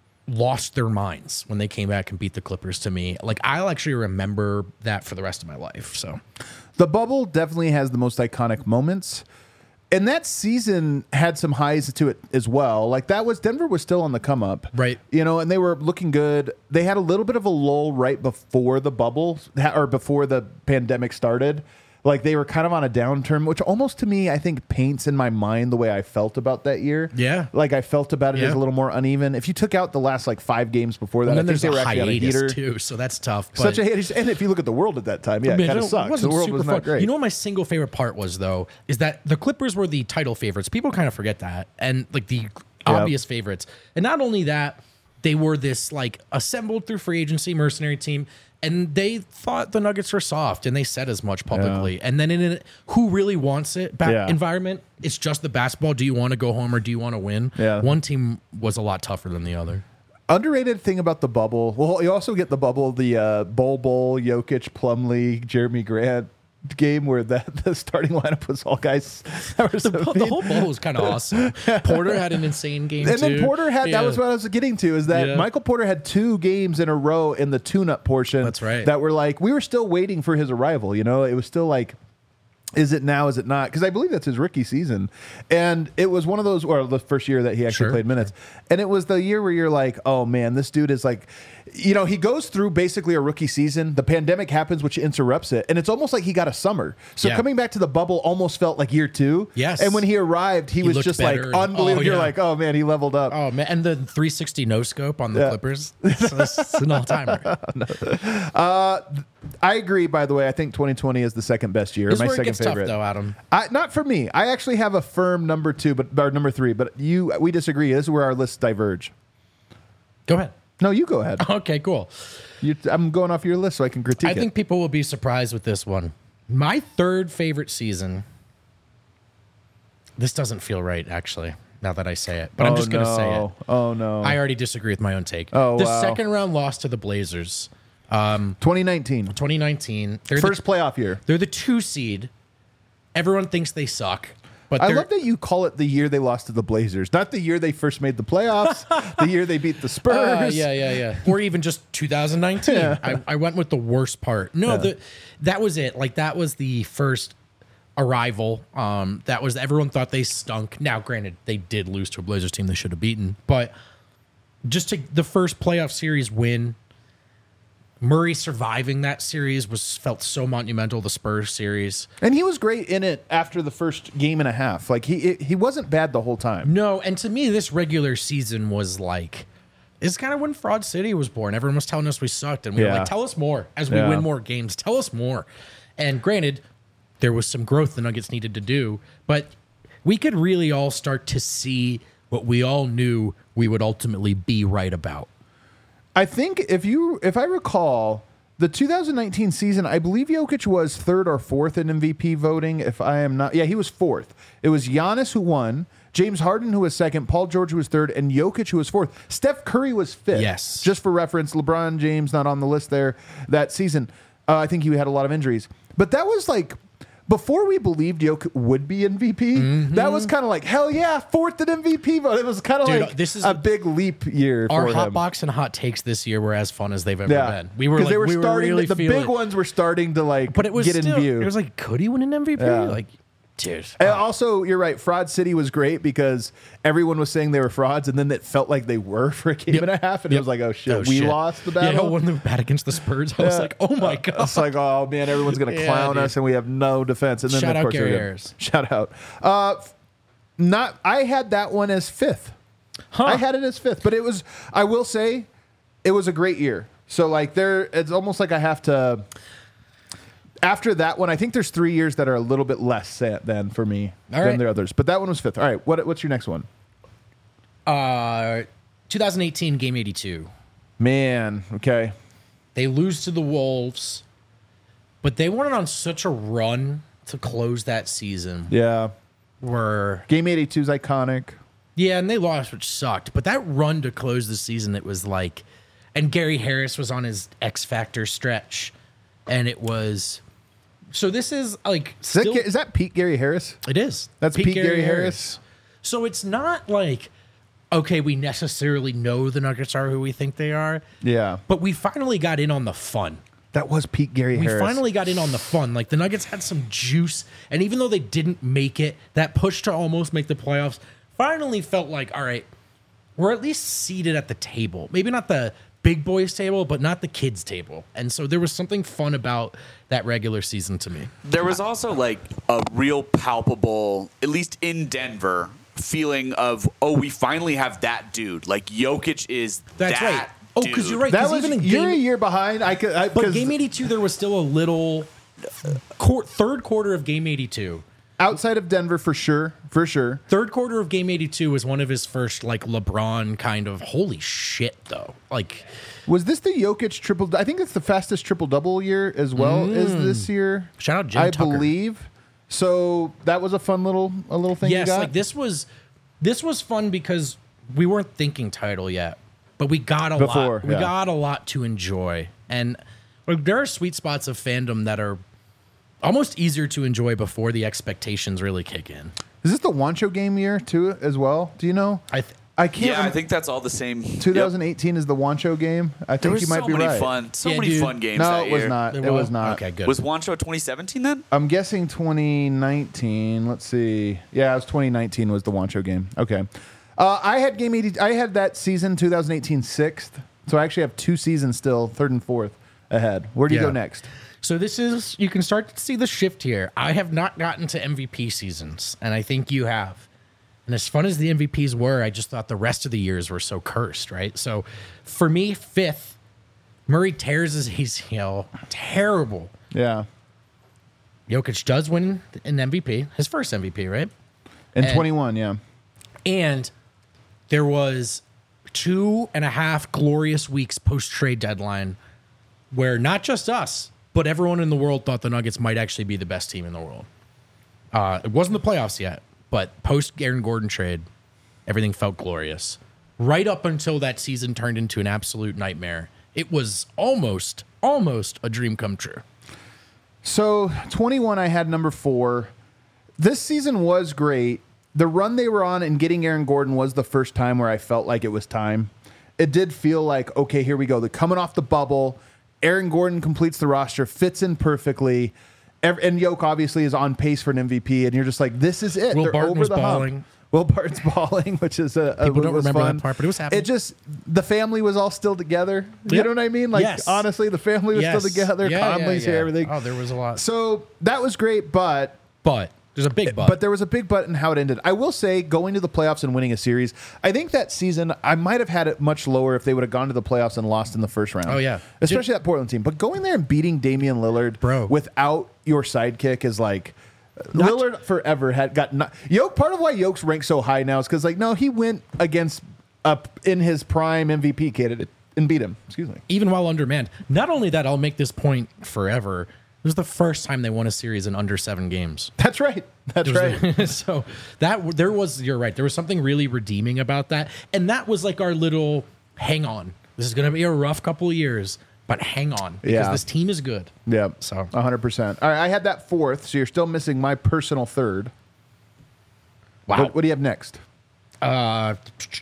Speaker 2: lost their minds when they came back and beat the Clippers to me. Like I'll actually remember that for the rest of my life. So
Speaker 1: the bubble definitely has the most iconic moments. And that season had some highs to it as well. Like that was Denver was still on the come up.
Speaker 2: Right.
Speaker 1: You know, and they were looking good. They had a little bit of a lull right before the bubble or before the pandemic started. Like they were kind of on a downturn, which almost to me, I think paints in my mind the way I felt about that year.
Speaker 2: Yeah.
Speaker 1: Like I felt about it
Speaker 2: Yeah.
Speaker 1: as a little more uneven. If you took out the last like five games before that,
Speaker 2: and
Speaker 1: I
Speaker 2: then
Speaker 1: think
Speaker 2: there's
Speaker 1: they
Speaker 2: a
Speaker 1: were actually on a
Speaker 2: hiatus
Speaker 1: heater.
Speaker 2: too, so that's tough. But
Speaker 1: Such a hiatus. And if you look at the world at that time, yeah,
Speaker 2: I mean,
Speaker 1: it kind
Speaker 2: it
Speaker 1: of sucks. The
Speaker 2: wasn't
Speaker 1: world
Speaker 2: super
Speaker 1: was
Speaker 2: fun.
Speaker 1: not great.
Speaker 2: You know what my single favorite part was though, is that the Clippers were the title favorites. People kind of forget that, and like the obvious favorites. And not only that, they were this like assembled through free agency mercenary team, and they thought the Nuggets were soft, and they said as much publicly. And then in a who really wants it back
Speaker 1: Yeah.
Speaker 2: environment, it's just the basketball. Do you want to go home or do you want to win?
Speaker 1: Yeah.
Speaker 2: One team was a lot tougher than the other.
Speaker 1: Underrated thing about the bubble. Well, you also get the bubble, the uh, Bol Bol, Jokic, Plumlee, Jeremy Grant game where the, the starting lineup was all guys that were so
Speaker 2: The, the
Speaker 1: mean.
Speaker 2: whole bowl was kind of awesome. Porter had an insane game
Speaker 1: And
Speaker 2: too.
Speaker 1: then Porter had
Speaker 2: Yeah.
Speaker 1: that was what I was getting to is that
Speaker 2: Yeah.
Speaker 1: Michael Porter had two games in a row in the tune-up portion.
Speaker 2: That's right.
Speaker 1: That were like we were still waiting for his arrival. You know, it was still like. Is it now? Is it not? Because I believe that's his rookie season, and it was one of those, or the first year that he actually
Speaker 2: Sure,
Speaker 1: played minutes, and it was the year where you're like, oh man, this dude is like, you know, he goes through basically a rookie season. The pandemic happens, which interrupts it, and it's almost like he got a summer. So
Speaker 2: Yeah.
Speaker 1: coming back to the bubble almost felt like year two.
Speaker 2: Yes.
Speaker 1: and when he arrived, he,
Speaker 2: He
Speaker 1: was
Speaker 2: looked
Speaker 1: just like
Speaker 2: better and-
Speaker 1: unbelievable.
Speaker 2: oh,
Speaker 1: You're
Speaker 2: yeah.
Speaker 1: like, oh man, he leveled up.
Speaker 2: Oh man, and the three sixty no scope on the
Speaker 1: Yeah.
Speaker 2: Clippers. So it's an all timer.
Speaker 1: I agree. By the way, I think twenty twenty is the second best year.
Speaker 2: This is
Speaker 1: my
Speaker 2: where it
Speaker 1: second
Speaker 2: gets
Speaker 1: favorite.
Speaker 2: tough, though, Adam.
Speaker 1: I, not for me. I actually have a firm number two, but or number three. But you, we disagree. This is where our lists diverge.
Speaker 2: Go ahead.
Speaker 1: No, you go ahead.
Speaker 2: Okay, cool.
Speaker 1: You, I'm going off your list so I can critique
Speaker 2: I
Speaker 1: it.
Speaker 2: think people will be surprised with this one. My third favorite season. This doesn't feel right, actually, now that I say it. But I'm
Speaker 1: Oh,
Speaker 2: just going to say it.
Speaker 1: no. Oh no.
Speaker 2: I already disagree with my own take.
Speaker 1: Oh,
Speaker 2: the
Speaker 1: wow.
Speaker 2: second round loss to the Blazers,
Speaker 1: twenty nineteen,
Speaker 2: twenty nineteen. They're
Speaker 1: first
Speaker 2: the,
Speaker 1: playoff year.
Speaker 2: they're the two seed. Everyone thinks they suck, but
Speaker 1: I
Speaker 2: they're,
Speaker 1: love that you call it the year they lost to the Blazers, not the year they first made the playoffs, the year they beat the Spurs.
Speaker 2: Uh, yeah, yeah, yeah. Or even just two thousand nineteen.
Speaker 1: Yeah.
Speaker 2: I, I went with the worst part. No,
Speaker 1: Yeah.
Speaker 2: the that was it. Like that was the first arrival. Um, that was everyone thought they stunk. Now, granted, they did lose to a Blazers team they should have beaten, but just to the first playoff series win. Murray surviving that series was felt so monumental. The Spurs series.
Speaker 1: And he was great in it after the first game and a half. Like he it, he wasn't bad the whole time.
Speaker 2: No, and to me, this regular season was like, it's kind of when Fraud City was born. Everyone was telling us we sucked, and we were
Speaker 1: Yeah.
Speaker 2: like, tell us more as we
Speaker 1: Yeah.
Speaker 2: win more games. Tell us more. And granted, there was some growth the Nuggets needed to do, but we could really all start to see what we all knew we would ultimately be right about.
Speaker 1: I think if you if I recall the two thousand nineteen season, I believe Jokic was third or fourth in M V P voting. If I am not, yeah, he was fourth. It was Giannis who won, James Harden who was second, Paul George who was third, and Jokic who was fourth. Steph Curry was fifth.
Speaker 2: Yes.
Speaker 1: Just for reference, LeBron James not on the list there that season. Uh, I think he had a lot of injuries, but that was like. Before we believed Jokic would be M V P, that was kind of like, hell yeah, fourth in M V P vote. It was kind of
Speaker 2: Dude,
Speaker 1: like
Speaker 2: this is
Speaker 1: a big leap year
Speaker 2: Our
Speaker 1: for
Speaker 2: hot
Speaker 1: him.
Speaker 2: box and hot takes this year were as fun as they've ever
Speaker 1: Yeah,
Speaker 2: been. We were
Speaker 1: 'Cause
Speaker 2: like,
Speaker 1: they were
Speaker 2: we were
Speaker 1: starting.
Speaker 2: really
Speaker 1: the
Speaker 2: feeling
Speaker 1: big ones were starting to like,
Speaker 2: but it was
Speaker 1: get
Speaker 2: still,
Speaker 1: in view.
Speaker 2: It was like, could he win an M V P?
Speaker 1: Yeah.
Speaker 2: Like, dude.
Speaker 1: And also, you're right. Fraud City was great because everyone was saying they were frauds, and then it felt like they were for a game
Speaker 2: Yep.
Speaker 1: and a half, and
Speaker 2: Yep.
Speaker 1: it was like, oh shit,
Speaker 2: Oh,
Speaker 1: we
Speaker 2: shit.
Speaker 1: lost the
Speaker 2: Yeah,
Speaker 1: battle.
Speaker 2: when they bat against the Spurs, I was
Speaker 1: Yeah.
Speaker 2: like, oh my god.
Speaker 1: It's like, oh man, everyone's gonna
Speaker 2: Yeah,
Speaker 1: clown
Speaker 2: dude.
Speaker 1: us, and we have no defense. And then
Speaker 2: Shout
Speaker 1: of
Speaker 2: out
Speaker 1: course,
Speaker 2: Gary
Speaker 1: they did.
Speaker 2: Ayers.
Speaker 1: Shout out. Uh, f- not. I had that one as fifth.
Speaker 2: Huh.
Speaker 1: I had it as fifth, but it was. I will say, it was a great year. So like, there, it's almost like I have to. After that one, I think there's three years that are a little bit less set than for me
Speaker 2: All
Speaker 1: than
Speaker 2: right.
Speaker 1: the others. But that one was fifth. All right, what, what's your next one?
Speaker 2: Uh, twenty eighteen Game eighty-two.
Speaker 1: Man, okay.
Speaker 2: They lose to the Wolves, but they went on such a run to close that season.
Speaker 1: Yeah.
Speaker 2: Where
Speaker 1: Game eighty-two is iconic.
Speaker 2: Yeah, and they lost, which sucked. But that run to close the season, it was like, and Gary Harris was on his X Factor stretch, and it was. So this is like
Speaker 1: Is,
Speaker 2: still,
Speaker 1: that, is that Pete Gary Harris?
Speaker 2: it is.
Speaker 1: That's Pete, Gary, Harris.
Speaker 2: So it's not like, okay, we necessarily know the Nuggets are who we think they are,
Speaker 1: Yeah.
Speaker 2: but we finally got in on the fun.
Speaker 1: That was Pete Gary
Speaker 2: We
Speaker 1: Harris.
Speaker 2: finally got in on the fun. Like the Nuggets had some juice, and even though they didn't make it, that push to almost make the playoffs finally felt like, all right, we're at least seated at the table. Maybe not the big boys table, but not the kids table. And so there was something fun about that regular season to me.
Speaker 4: There was also like a real palpable, at least in Denver, feeling of, oh, we finally have that dude. Like Jokic is
Speaker 2: That's
Speaker 4: that
Speaker 2: right. Oh, because
Speaker 4: dude.
Speaker 2: you're right.
Speaker 1: That
Speaker 2: 'cause
Speaker 1: was
Speaker 2: even in
Speaker 1: you're a
Speaker 2: game,
Speaker 1: year behind. I could, I,
Speaker 2: but
Speaker 1: 'cause
Speaker 2: game eighty-two, there was still a little quar third quarter of game eighty-two.
Speaker 1: outside of Denver for sure, for sure.
Speaker 2: Third quarter of game eighty-two was one of his first like LeBron kind of holy shit though. Like
Speaker 1: Was this the Jokic triple? I think it's the fastest triple double year as well as this year.
Speaker 2: Mm. Shout out Jim
Speaker 1: I
Speaker 2: Tucker.
Speaker 1: believe. So that was a fun little a little thing.
Speaker 2: yes,
Speaker 1: you got?
Speaker 2: like this was this was fun because we weren't thinking title yet, but we got a
Speaker 1: Before,
Speaker 2: lot. We
Speaker 1: yeah.
Speaker 2: got a lot to enjoy, and like, there are sweet spots of fandom that are almost easier to enjoy before the expectations really kick in.
Speaker 1: Is this the Wancho game year too as well? Do you know?
Speaker 2: I th-
Speaker 1: I can't.
Speaker 4: Yeah, I
Speaker 1: rem-
Speaker 4: think that's all the same.
Speaker 1: twenty eighteen is the Wancho game. I
Speaker 4: There
Speaker 1: think
Speaker 4: was
Speaker 1: you might
Speaker 4: so
Speaker 1: be
Speaker 4: many
Speaker 1: right.
Speaker 4: fun, so
Speaker 2: Yeah,
Speaker 4: many
Speaker 2: dude.
Speaker 4: fun games
Speaker 1: No,
Speaker 4: that
Speaker 1: it was
Speaker 4: year.
Speaker 1: not.
Speaker 2: There
Speaker 1: It was not.
Speaker 2: Okay, good.
Speaker 4: Was Wancho twenty seventeen then?
Speaker 1: I'm guessing twenty nineteen. Let's see. Yeah, it was twenty nineteen was the Wancho game. Okay. Uh, I had game eighty. I had that season twenty eighteen sixth. So I actually have two seasons still, third and fourth ahead. Where do you
Speaker 2: Yeah.
Speaker 1: go next?
Speaker 2: So this is you can start to see the shift here. I have not gotten to M V P seasons, and I think you have. And as fun as the M V Ps were, I just thought the rest of the years were so cursed, right? So for me, fifth, Murray tears his A C L. Terrible.
Speaker 1: Yeah.
Speaker 2: Jokic does win an M V P, his first M V P, right?
Speaker 1: In
Speaker 2: And-
Speaker 1: twenty-one, yeah.
Speaker 2: And there was two and a half glorious weeks post trade deadline where not just us, but everyone in the world thought the Nuggets might actually be the best team in the world. Uh, it wasn't the playoffs yet, but post Aaron Gordon trade, everything felt glorious. Right up until that season turned into an absolute nightmare. It was almost, almost a dream come true.
Speaker 1: So twenty-one, I had number four. This season was great. The run they were on and getting Aaron Gordon was the first time where I felt like it was time. It did feel like, okay, here we go. They're coming off the bubble. Aaron Gordon completes the roster, fits in perfectly. Ev- And Yoke obviously is on pace for an M V P. And you're just like, this is it.
Speaker 2: Will
Speaker 1: They're
Speaker 2: Barton
Speaker 1: over
Speaker 2: was
Speaker 1: the hump.
Speaker 2: balling.
Speaker 1: Will Barton's balling, which is a, a
Speaker 2: People don't
Speaker 1: was
Speaker 2: remember
Speaker 1: fun.
Speaker 2: that part, but it was happening.
Speaker 1: It just, the family was all still together. You
Speaker 2: Yep.
Speaker 1: know what I mean? Like,
Speaker 2: Yes.
Speaker 1: honestly, the family was
Speaker 2: Yes.
Speaker 1: still together.
Speaker 2: Yeah, yeah,
Speaker 1: Conley's
Speaker 2: yeah.
Speaker 1: here, everything.
Speaker 2: Oh, there was a lot.
Speaker 1: So that was great, but
Speaker 2: But there's a big but.
Speaker 1: but there was a big but in how it ended. I will say, going to the playoffs and winning a series, I think that season I might have had it much lower if they would have gone to the playoffs and lost in the first round.
Speaker 2: Oh, yeah.
Speaker 1: Especially that Portland team. But going there and beating Damian Lillard
Speaker 2: Bro.
Speaker 1: without your sidekick is like
Speaker 2: Not-
Speaker 1: Lillard forever had got not, Yoke. Part of why Yoke's ranked so high now is because like no, he went against up in his prime M V P candidate and beat him. Excuse me.
Speaker 2: even while undermanned. Not only that, I'll make this point forever. It was the first time they won a series in under seven games.
Speaker 1: That's right. That's right.
Speaker 2: so that there was, you're right. There was something really redeeming about that, and that was like our little hang on. This is going to be a rough couple of years, but hang on because
Speaker 1: Yeah.
Speaker 2: this team is good.
Speaker 1: Yeah.
Speaker 2: So-
Speaker 1: one hundred percent. All right, I had that fourth, so you're still missing my personal third.
Speaker 2: Wow.
Speaker 1: What, what do you have next?
Speaker 2: Uh,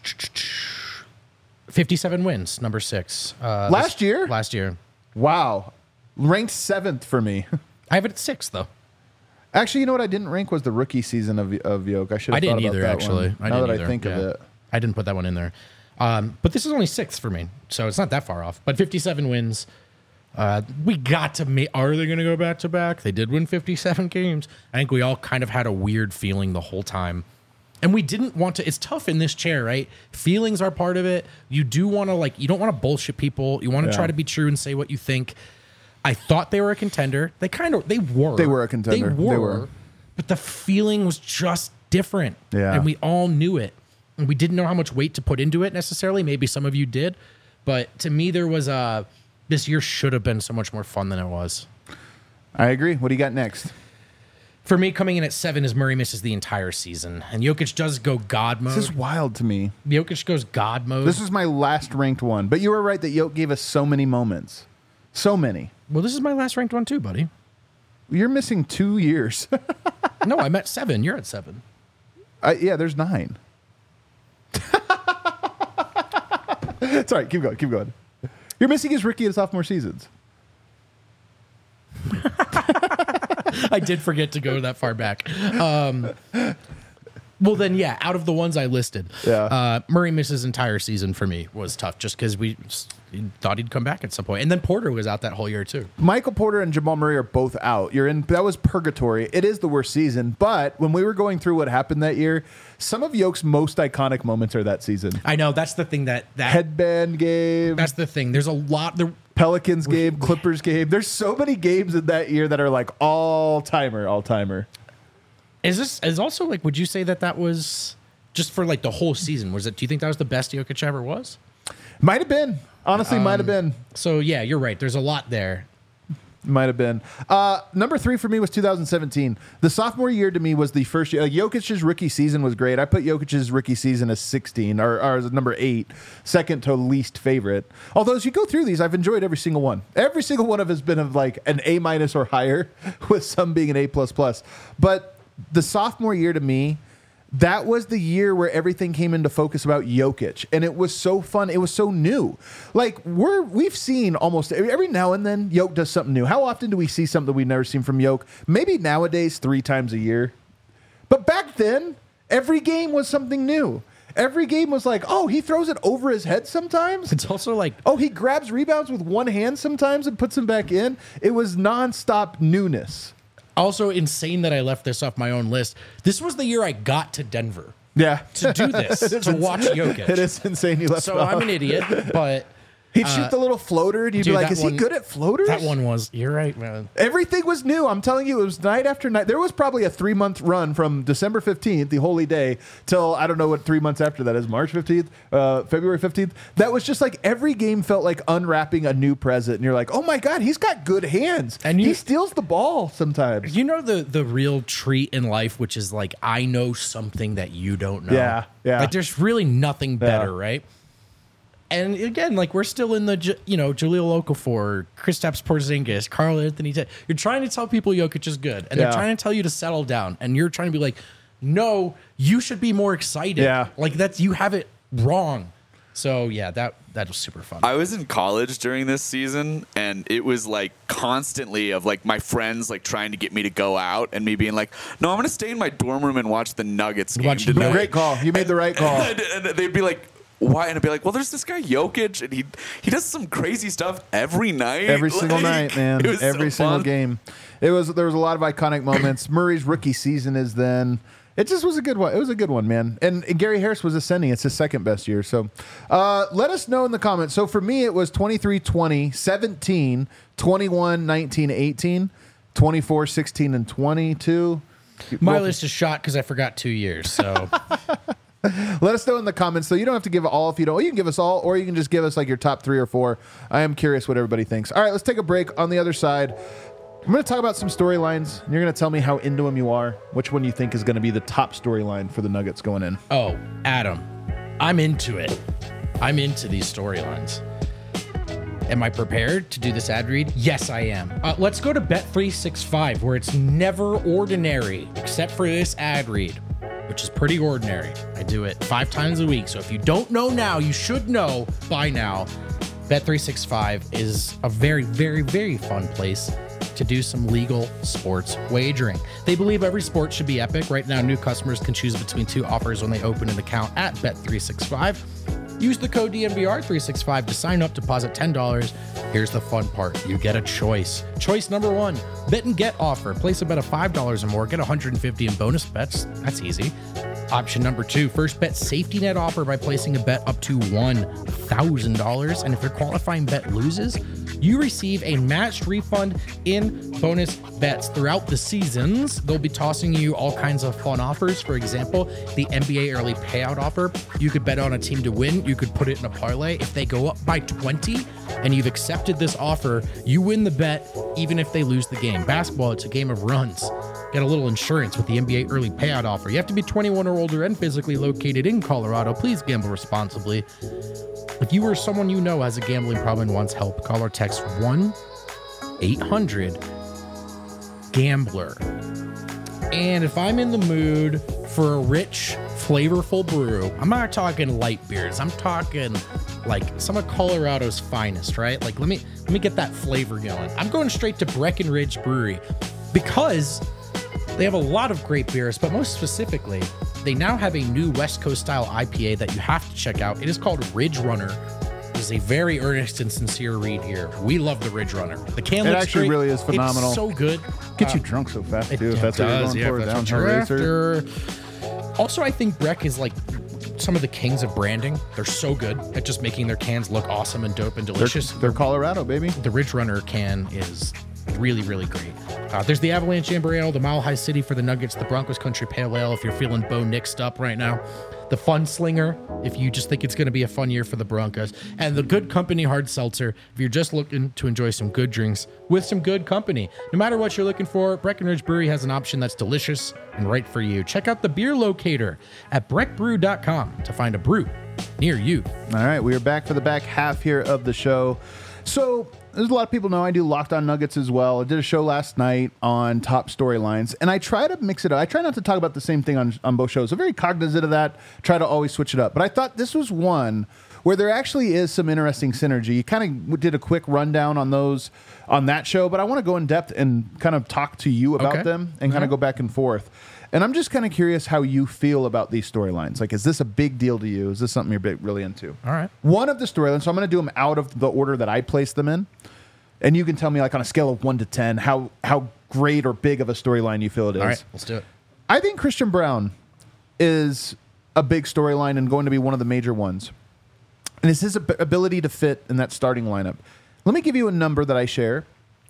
Speaker 2: fifty-seven wins, number six. Uh,
Speaker 1: Last
Speaker 2: this-
Speaker 1: year?
Speaker 2: Last year.
Speaker 1: Wow. Ranked seventh for me.
Speaker 2: I have it at six though.
Speaker 1: Actually, you know what I didn't rank was the rookie season of of Yoke. I should have
Speaker 2: I didn't
Speaker 1: thought about
Speaker 2: either,
Speaker 1: that
Speaker 2: actually.
Speaker 1: one.
Speaker 2: I
Speaker 1: now
Speaker 2: didn't
Speaker 1: that
Speaker 2: either.
Speaker 1: I think of
Speaker 2: Yeah.
Speaker 1: it.
Speaker 2: I didn't put that one in there. Um, but this is only sixth for me, so it's not that far off. But fifty-seven wins. Uh, we got to make. Are they going to go back to back? They did win fifty-seven games. I think we all kind of had a weird feeling the whole time. And we didn't want to. It's tough in this chair, right? Feelings are part of it. You do want to, like, you don't want to bullshit people. You want to
Speaker 1: Yeah.
Speaker 2: try to be true and say what you think. I thought they were a contender. They kind of, they were.
Speaker 1: They were a contender.
Speaker 2: They
Speaker 1: They
Speaker 2: were.
Speaker 1: were.
Speaker 2: But the feeling was just different.
Speaker 1: Yeah.
Speaker 2: And we all knew it. And we didn't know how much weight to put into it necessarily. Maybe some of you did. But to me, there was a this year should have been so much more fun than it was.
Speaker 1: I agree. What do you got next?
Speaker 2: For me, coming in at seven is Murray misses the entire season, and Jokic does go God mode.
Speaker 1: This is wild to me.
Speaker 2: Jokic goes God mode.
Speaker 1: This was my last ranked one, but you were right that Jokic gave us so many moments, so many.
Speaker 2: Well, this is my last ranked one too, buddy.
Speaker 1: You're missing two years.
Speaker 2: No, I'm at seven. You're at seven.
Speaker 1: Uh, yeah, there's nine. Sorry, keep going, keep going. You're missing his rookie and sophomore seasons.
Speaker 2: I did forget to go that far back. Um, well, then, yeah, out of the ones I listed,
Speaker 1: Yeah.
Speaker 2: uh, Murray misses entire season for me was tough just because we thought he'd come back at some point. And then Porter was out that whole year, too.
Speaker 1: Michael Porter and Jamal Murray are both out. You're in. That was purgatory. It is the worst season. But when we were going through what happened that year, some of Yoke's most iconic moments are that season.
Speaker 2: I know. That's the thing that... that
Speaker 1: Headband game.
Speaker 2: That's the thing. There's a lot... There,
Speaker 1: Pelicans game, Clippers game. There's so many games in that year that are like all timer, all timer.
Speaker 2: Is this... Is also, like, would you say that that was... Just for, like, the whole season? Was it? Do you think that was the best Jokic ever was?
Speaker 1: Might have been. Honestly,
Speaker 2: Um,
Speaker 1: might have been.
Speaker 2: So, yeah, you're right. There's a lot there.
Speaker 1: Might have been. Uh, number three for me was two thousand seventeen. The sophomore year to me was the first year. Like, Jokic's rookie season was great. I put Jokic's rookie season as sixteen, or, or as number eight, second to least favorite. Although as you go through these, I've enjoyed every single one. Every single one of has been of like an A minus or higher, with some being an A plus plus. But the sophomore year to me, that was the year where everything came into focus about Jokic, and it was so fun. It was so new. Like we're we've seen almost every now and then Jokic does something new. How often do we see something we've never seen from Jokic? Maybe nowadays three times a year, but back then every game was something new. Every game was like, oh, he throws it over his head sometimes.
Speaker 2: It's also like...
Speaker 1: Oh, he grabs rebounds with one hand sometimes and puts them back in. It was nonstop newness.
Speaker 2: Also insane that I left this off my own list. This was the year I got to Denver
Speaker 1: Yeah,
Speaker 2: to do this, to watch Jokic.
Speaker 1: It is insane. You left.
Speaker 2: So
Speaker 1: it off.
Speaker 2: I'm an idiot, but
Speaker 1: He'd shoot the little floater, and you'd
Speaker 2: dude,
Speaker 1: be like,
Speaker 2: that
Speaker 1: is
Speaker 2: one-
Speaker 1: he good at floaters?
Speaker 2: that one was, you're right, man.
Speaker 1: Everything was new. I'm telling you, it was night after night. There was probably a three month run from December fifteenth, the holy day, till I don't know what three months after that is, March fifteenth, uh, February fifteenth. That was just like every game felt like unwrapping a new present. And you're like, oh my God, he's got good hands.
Speaker 2: And you-
Speaker 1: he steals the ball sometimes.
Speaker 2: You know the the real treat in life, which is like, I know something that you don't know.
Speaker 1: Yeah, yeah.
Speaker 2: Like there's really nothing better,
Speaker 1: Yeah.
Speaker 2: right? And again, like we're still in the, J- you know, Jahlil Okafor, Kristaps Porzingis, Karl Anthony. T- you're trying to tell people Jokic is good, and
Speaker 1: Yeah.
Speaker 2: they're trying to tell you to settle down, and you're trying to be like, no, you should be more excited.
Speaker 1: Yeah.
Speaker 2: Like that's you have it wrong. So yeah, that that was super fun.
Speaker 4: I was in college during this season, and it was like constantly of like my friends like trying to get me to go out, and me being like, "No, I'm going to stay in my dorm room and watch the Nuggets game
Speaker 2: Watch the
Speaker 4: tonight."
Speaker 1: Great call. You made the right call.
Speaker 4: And, and they'd be like, "Why?" And I'd be like, "Well, there's this guy Jokic, and he he does some crazy stuff every night,
Speaker 1: Every single
Speaker 4: Like,
Speaker 1: night, man.
Speaker 4: it was
Speaker 1: Every
Speaker 4: so
Speaker 1: single
Speaker 4: fun.
Speaker 1: game. It was there was a lot of iconic moments. Murray's rookie season is then. It just was a good one. It was a good one, man. And, and Gary Harris was ascending. It's his second best year. So uh, let us know in the comments. So for me, it was twenty-three twenty, seventeen, twenty-one, nineteen, eighteen, twenty-four, sixteen, and twenty-two.
Speaker 2: My
Speaker 1: Well,
Speaker 2: list is shot because I forgot two years. So
Speaker 1: let us know in the comments. So you don't have to give all if you don't. You can give us all, or you can just give us like your top three or four. I am curious what everybody thinks. All right, let's take a break. On the other side, I'm going to talk about some storylines. And you're going to tell me how into them you are. Which one you think is going to be the top storyline for the Nuggets going in?
Speaker 2: oh, Adam, I'm into it. I'm into these storylines. Am I prepared to do this ad read? Yes, I am. Uh, let's go to Bet three sixty-five, where it's never ordinary, except for this ad read, which is pretty ordinary. I do it five times a week. So if you don't know now, you should know by now. Bet three sixty-five is a very, very, very fun place to do some legal sports wagering. They believe every sport should be epic. Right now, new customers can choose between two offers when they open an account at Bet three sixty-five. Use the code D N V R three sixty-five to sign up, deposit ten dollars. Here's the fun part. You get a choice. Choice number one, bet and get offer. Place a bet of five dollars or more, get one hundred fifty in bonus bets. That's easy. Option number two, first bet safety net offer by placing a bet up to one thousand dollars. And if your qualifying bet loses, you receive a matched refund in bonus bets throughout the seasons. They'll be tossing you all kinds of fun offers. For example, the N B A early payout offer. You could bet on a team to win. You could put it in a parlay. If they go up by twenty and you've accepted this offer, you win the bet even if they lose the game. Basketball, it's a game of runs. Get a little insurance with the N B A early payout offer. You have to be twenty-one or older and physically located in Colorado. Please gamble responsibly. If you or someone you know has a gambling problem and wants help, call or text one eight hundred gambler. And if I'm in the mood for a rich, flavorful brew, I'm not talking light beers. I'm talking like some of Colorado's finest, right? Like let me let me get that flavor going. I'm going straight to Breckenridge Brewery because they have a lot of great beers, but most specifically, they now have a new West Coast style I P A that you have to check out. It is called Ridge Runner. It is a very earnest and sincere read here. We love the Ridge Runner. The can
Speaker 1: It
Speaker 2: looks
Speaker 1: actually
Speaker 2: great.
Speaker 1: really is phenomenal.
Speaker 2: It's so good.
Speaker 1: Get you
Speaker 2: Uh,
Speaker 1: drunk so fast,
Speaker 2: it
Speaker 1: too, if that's what you're
Speaker 2: does,
Speaker 1: going
Speaker 2: yeah,
Speaker 1: for,
Speaker 2: if
Speaker 1: a
Speaker 2: that's what
Speaker 1: downhill
Speaker 2: you're
Speaker 1: racer.
Speaker 2: after. Also, I think Breck is like some of the kings of branding. They're so good at just making their cans look awesome and dope and
Speaker 1: They're,
Speaker 2: delicious.
Speaker 1: they're Colorado, baby.
Speaker 2: The Ridge Runner can is really, really great. Uh, there's the Avalanche Amber Ale, the Mile High City for the Nuggets, the Broncos Country Pale Ale if you're feeling Bo Nixed up right now, the Fun Slinger if you just think it's going to be a fun year for the Broncos, and the Good Company Hard Seltzer if you're just looking to enjoy some good drinks with some good company. No matter what you're looking for, Breckenridge Brewery has an option that's delicious and right for you. Check out the beer locator at breck brew dot com to find a brew near you.
Speaker 1: All right, we are back for the back half here of the show. So, there's a lot of people know I do Locked On Nuggets as well. I did a show last night on top storylines, and I try to mix it up. I try not to talk about the same thing on, on both shows. I'm very cognizant of that, try to always switch it up. But I thought this was one where there actually is some interesting synergy. You kind of did a quick rundown on those on that show, but I want to go in depth and kind of talk to you about
Speaker 2: Okay.
Speaker 1: them and kind of go back and forth. And I'm just kind of curious how you feel about these storylines. Like, is this a big deal to you? Is this something you're big, really into?
Speaker 2: All right.
Speaker 1: One of the storylines, so I'm going to do them out of the order that I placed them in. And you can tell me, like, on a scale of one to ten, how, how great or big of a storyline you feel it is.
Speaker 2: All right, let's do it.
Speaker 1: I think Christian Brown is a big storyline and going to be one of the major ones. And it's his ab- ability to fit in that starting lineup. Let me give you a number that I share.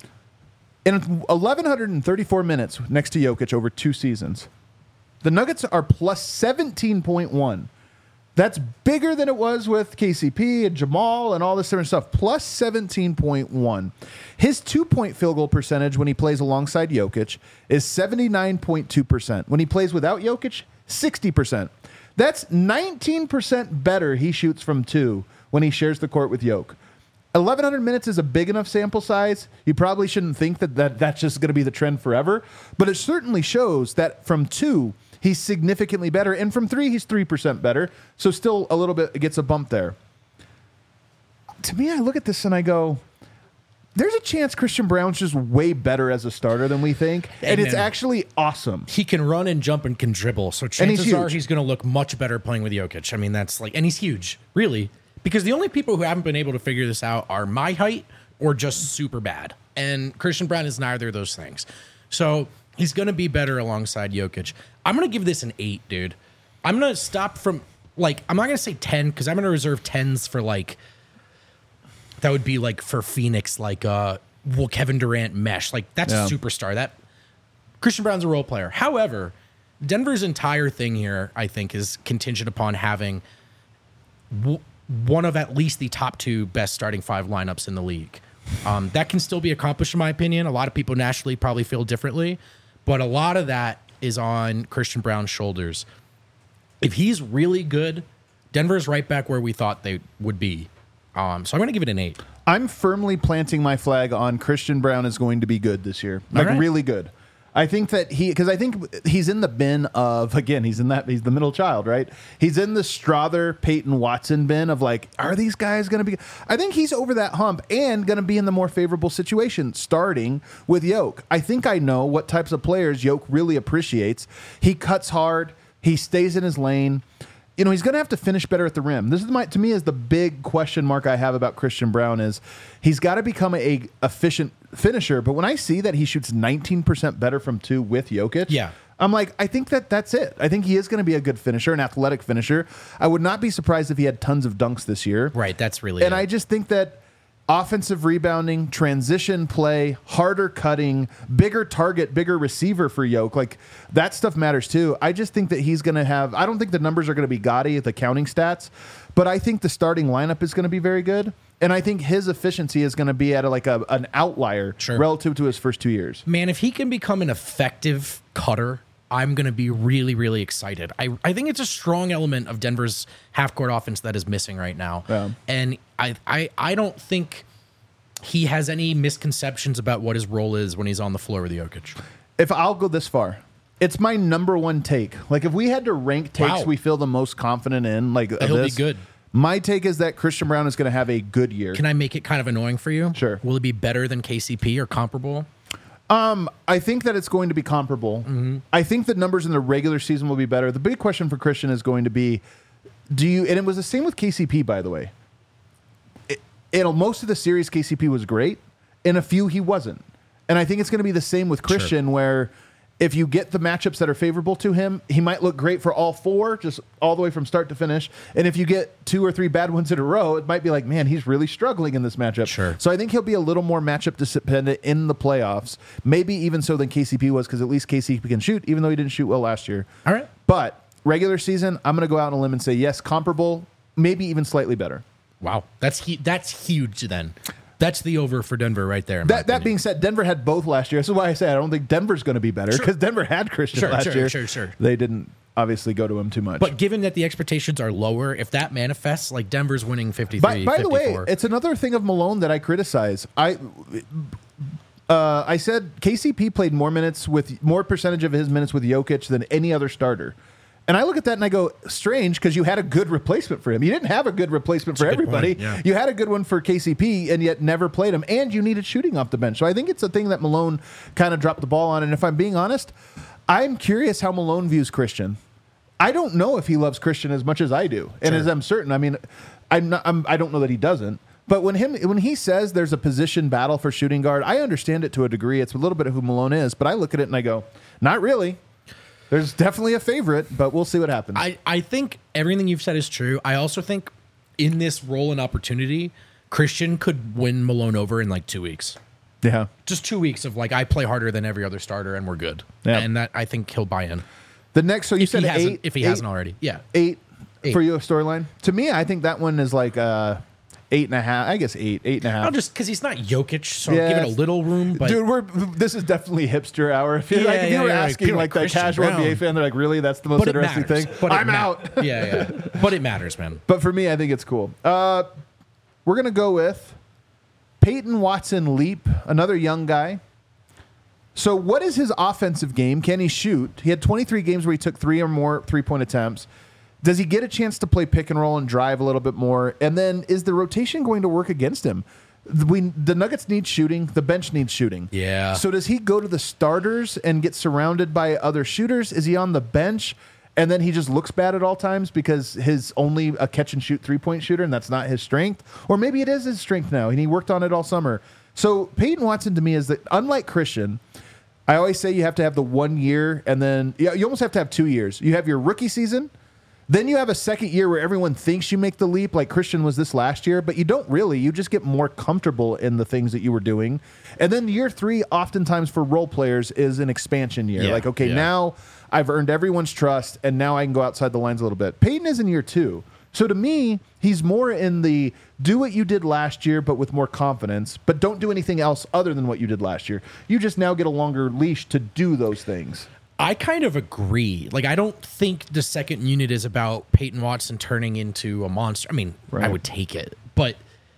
Speaker 1: In eleven thirty-four minutes next to Jokic over two seasons, the Nuggets are plus seventeen point one. That's bigger than it was with K C P and Jamal and all this different stuff. Plus seventeen point one. His two-point field goal percentage when he plays alongside Jokic is seventy-nine point two percent. When he plays without Jokic, sixty percent. That's nineteen percent better he shoots from two when he shares the court with Jokic. eleven hundred minutes is a big enough sample size. You probably shouldn't think that, that that's just going to be the trend forever. But it certainly shows that from two, he's significantly better. And from three, he's three percent better. So still a little bit gets a bump there. To me, I look at this and I go, there's a chance Christian Brown's just way better as a starter than we think. And,
Speaker 2: And
Speaker 1: it's
Speaker 2: then-
Speaker 1: actually awesome.
Speaker 2: He can run and jump and can dribble. So
Speaker 1: he's
Speaker 2: chances are
Speaker 1: huge.
Speaker 2: he's going to look much better playing with Jokic. I mean, that's like, and he's huge, really. Because the only people who haven't been able to figure this out are my height or just super bad. And Christian Brown is neither of those things. So he's going to be better alongside Jokic. I'm going to give this an eight, dude. I'm going to stop from, like, I'm not going to say ten because I'm going to reserve tens for, like, that would be like for Phoenix, like, uh, well, Kevin Durant mesh. Like, that's
Speaker 1: Yeah.
Speaker 2: a superstar. That Christian Brown's a role player. However, Denver's entire thing here, I think, is contingent upon having w- one of at least the top two best starting five lineups in the league. Um, that can still be accomplished, in my opinion. A lot of people nationally probably feel differently, but a lot of that is on Christian Brown's shoulders. If he's really good, Denver's right back where we thought they would be. Um, so I'm going to give it an eight.
Speaker 1: I'm firmly planting my flag on Christian Brown is going to be good this year. Like,
Speaker 2: right.
Speaker 1: really good. I think that he, because I think he's in the bin of, again, he's in that, he's the middle child, right? He's in the Strother, Peyton Watson bin of like, are these guys going to be, I think he's over that hump and going to be in the more favorable situation, starting with Yoke. I think I know what types of players Yoke really appreciates. He cuts hard, he stays in his lane. You know, he's going to have to finish better at the rim. This is my, to me, is the big question mark I have about Christian Brown is he's got to become a, a efficient finisher. But when I see that he shoots nineteen percent better from two with Jokic,
Speaker 2: Yeah.
Speaker 1: I'm like, I think that that's it. I think he is going to be a good finisher, an athletic finisher. I would not be surprised if he had tons of dunks this year.
Speaker 2: Right, that's really
Speaker 1: And
Speaker 2: it.
Speaker 1: I just think that offensive rebounding, transition play, harder cutting, bigger target, bigger receiver for Yoke. Like that stuff matters too. I just think that he's going to have, I don't think the numbers are going to be gaudy, the counting stats, but I think the starting lineup is going to be very good. And I think his efficiency is going to be at a, like a, an outlier
Speaker 2: Sure.
Speaker 1: relative to his first two years.
Speaker 2: Man, if he can become an effective cutter, I'm going to be really, really excited. I, I think it's a strong element of Denver's half-court offense that is missing right now.
Speaker 1: Yeah.
Speaker 2: And I, I, I don't think he has any misconceptions about what his role is when he's on the floor with Jokic.
Speaker 1: If I'll go this far, it's my number one take. Like if we had to rank takes
Speaker 2: Wow.
Speaker 1: we feel the most confident in, like
Speaker 2: He'll
Speaker 1: this,
Speaker 2: be good.
Speaker 1: My take is that Christian Brown is going to have a good year.
Speaker 2: Can I make it kind of annoying for you?
Speaker 1: Sure.
Speaker 2: Will it be better than K C P or comparable?
Speaker 1: I think that it's going to be comparable.
Speaker 2: Mm-hmm.
Speaker 1: I think the numbers in the regular season will be better. The big question for Christian is going to be, do you? And it was the same with K C P, by the way. It, it'll most of the series K C P was great. In a few, he wasn't. And I think it's going to be the same with Christian,
Speaker 2: Sure.
Speaker 1: where if you get the matchups that are favorable to him, he might look great for all four, just all the way from start to finish. And if you get two or three bad ones in a row, it might be like, man, he's really struggling in this matchup.
Speaker 2: Sure.
Speaker 1: So I think he'll be a little more matchup dependent in the playoffs, maybe even so than K C P was, because at least K C P can shoot, even though he didn't shoot well last year.
Speaker 2: All right.
Speaker 1: But regular season, I'm going to go out on a limb and say, yes, comparable, maybe even slightly better.
Speaker 2: Wow. That's hu- that's huge then. That's the over for Denver right there. in my
Speaker 1: That, that
Speaker 2: opinion.
Speaker 1: being said, Denver had both last year. This is why I say I don't think Denver's going to be better, because Denver had Christian
Speaker 2: Sure,
Speaker 1: last
Speaker 2: sure,
Speaker 1: year.
Speaker 2: sure, sure.
Speaker 1: They didn't obviously go to him too much.
Speaker 2: But given that the expectations are lower, if that manifests, like Denver's winning fifty-three,
Speaker 1: By, by the way,
Speaker 2: fifty-four.
Speaker 1: it's another thing of Malone that I criticize. I uh, I said K C P played more minutes with more percentage of his minutes with Jokic than any other starter. And I look at that and I go, strange, because you had a good replacement for him. You didn't have a good replacement for
Speaker 2: That's a good
Speaker 1: everybody.
Speaker 2: point, yeah.
Speaker 1: You had a good one for K C P and yet never played him. And you needed shooting off the bench. So I think it's a thing that Malone kind of dropped the ball on. And if I'm being honest, I'm curious how Malone views Christian. I don't know if he loves Christian as much as I do, and
Speaker 2: Sure.
Speaker 1: as I'm certain. I mean, I'm not, I'm, I don't know that he doesn't. But when him when he says there's a position battle for shooting guard, I understand it to a degree. It's a little bit of who Malone is, but I look at it and I go, not really. There's definitely a favorite, but we'll see what happens.
Speaker 2: I, I think everything you've said is true. I also think in this role and opportunity, Christian could win Malone over in like two weeks.
Speaker 1: yeah.
Speaker 2: Just two weeks of like, I play harder than every other starter and we're good.
Speaker 1: Yeah.
Speaker 2: And that I think he'll buy in.
Speaker 1: The next, so you
Speaker 2: If
Speaker 1: said
Speaker 2: he hasn't,
Speaker 1: eight.
Speaker 2: if he
Speaker 1: eight,
Speaker 2: hasn't already. Yeah.
Speaker 1: eight,
Speaker 2: Eight.
Speaker 1: for you a storyline. To me, I think that one is like uh, eight and a half. I guess eight, eight and a half.
Speaker 2: I'll just because he's not Jokic, so
Speaker 1: Yeah.
Speaker 2: give it a little room. But
Speaker 1: Dude, we're this is definitely hipster hour. If, you
Speaker 2: Yeah,
Speaker 1: like, if you
Speaker 2: yeah,
Speaker 1: were
Speaker 2: yeah, like,
Speaker 1: asking
Speaker 2: people
Speaker 1: like
Speaker 2: like
Speaker 1: that
Speaker 2: Christian
Speaker 1: casual N B A
Speaker 2: Brown.
Speaker 1: fan, they're like, really, that's the most
Speaker 2: but it
Speaker 1: interesting
Speaker 2: matters.
Speaker 1: thing.
Speaker 2: But it
Speaker 1: I'm
Speaker 2: ma-
Speaker 1: out.
Speaker 2: yeah, yeah. But it matters, man.
Speaker 1: But for me, I think it's cool. Uh, we're gonna go with Peyton Watson Leap, another young guy. So, what is his offensive game? Can he shoot? He had twenty-three games where he took three or more three-point attempts. Does he get a chance to play pick and roll and drive a little bit more? And then, is the rotation going to work against him? We, the Nuggets need shooting. The bench needs shooting.
Speaker 2: Yeah.
Speaker 1: So, does he go to the starters and get surrounded by other shooters? Is he on the bench? And then he just looks bad at all times because his only a catch and shoot three point shooter, and that's not his strength. Or maybe it is his strength now, and he worked on it all summer. So Peyton Watson to me is that, unlike Christian, I always say you have to have the one year, and then yeah, you almost have to have two years. You have your rookie season, then you have a second year where everyone thinks you make the leap, like Christian was this last year, but you don't really. You just get more comfortable in the things that you were doing. And then year three, oftentimes for role players, is an expansion year.
Speaker 2: Yeah,
Speaker 1: like, okay,
Speaker 2: yeah.
Speaker 1: now I've earned everyone's trust, and now I can go outside the lines a little bit. Peyton is in year two. So to me, he's more in the do what you did last year, but with more confidence, but don't do anything else other than what you did last year. You just now get a longer leash to do those things.
Speaker 2: I kind of agree. Like, I don't think the second unit is about Peyton Watson turning into a monster. I mean, I
Speaker 1: Right.
Speaker 2: would take it, but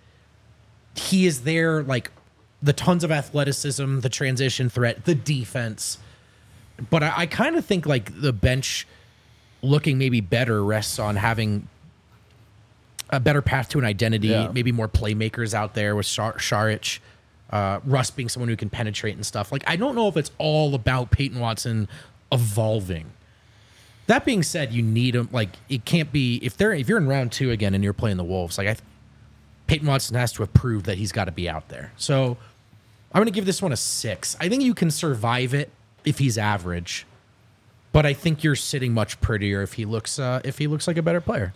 Speaker 2: he is there, like, the tons of athleticism, the transition threat, the defense. But I, I kind of think, like, the bench looking maybe better rests on having a better path to an identity,
Speaker 1: Yeah.
Speaker 2: maybe more playmakers out there with Shar- Saric, uh, Russ being someone who can penetrate and stuff. Like, I don't know if it's all about Peyton Watson evolving. That being said, you need him. Like, it can't be if they're if you're in round two again and you're playing the Wolves. Like, I, Peyton Watson has to have proved that he's got to be out there. So, I'm going to give this one a six. I think you can survive it if he's average, but I think you're sitting much prettier if he looks uh, if he looks like a better player.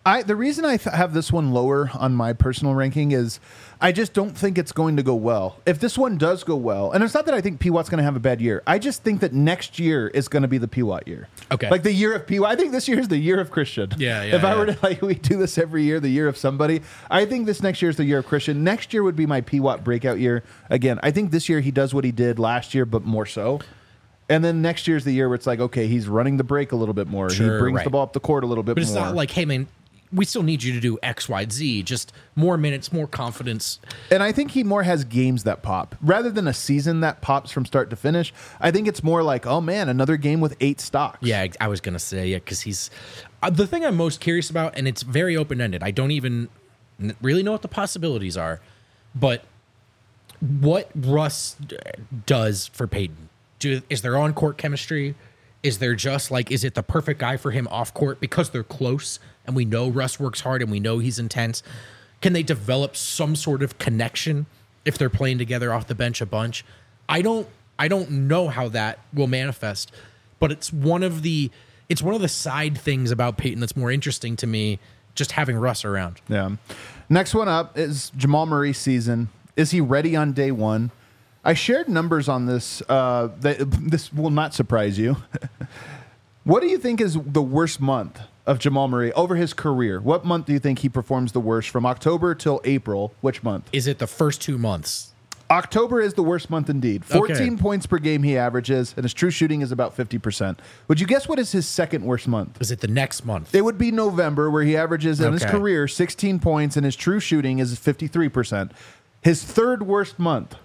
Speaker 1: I the reason I th- have this one lower on my personal ranking is I just don't think it's going to go well. If this one does go well, and it's not that I think P Watt's going to have a bad year. I just think that next year is going to be the P Watt year.
Speaker 2: Okay.
Speaker 1: Like the year of P Watt. I think this year is the year of Christian.
Speaker 2: Yeah, yeah,
Speaker 1: If I
Speaker 2: yeah.
Speaker 1: were to, like, we do this every year, the year of somebody, I think this next year is the year of Christian. Next year would be my P Watt breakout year. Again, I think this year he does what he did last year, but more so. And then next year's the year where it's like, okay, he's running the break a little bit more.
Speaker 2: Sure,
Speaker 1: he brings
Speaker 2: right.
Speaker 1: the ball up the court a little bit
Speaker 2: But it's
Speaker 1: more.
Speaker 2: not like, hey, man, we still need you to do X, Y, Z. Just more minutes, more confidence.
Speaker 1: And I think he more has games that pop rather than a season that pops from start to finish. I think it's more like, oh man, another game with eight stocks.
Speaker 2: Yeah, I was gonna say yeah, because he's uh, the thing I'm most curious about, and it's very open ended. I don't even n- really know what the possibilities are, but what Russ d- does for Peyton. Do, is there on court chemistry? Is there just like, is it the perfect guy for him off court because they're close and we know Russ works hard and we know he's intense? Can they develop some sort of connection if they're playing together off the bench a bunch? I don't I don't know how that will manifest, but it's one of the it's one of the side things about Peyton that's more interesting to me, just having Russ around.
Speaker 1: Yeah. Next one up is Jamal Murray's season. Is he ready on day one? I shared numbers on this. Uh, that, this will not surprise you. What do you think is the worst month of Jamal Murray over his career? What month do you think he performs the worst from October till April? Which month?
Speaker 2: Is it the first two months?
Speaker 1: October is the worst month indeed. fourteen okay. points per game he averages, and his true shooting is about fifty percent. Would you guess what is his second worst month?
Speaker 2: Is it the next month?
Speaker 1: It would be November, where he averages in
Speaker 2: okay.
Speaker 1: his career sixteen points, and his true shooting is fifty-three percent. His third worst month.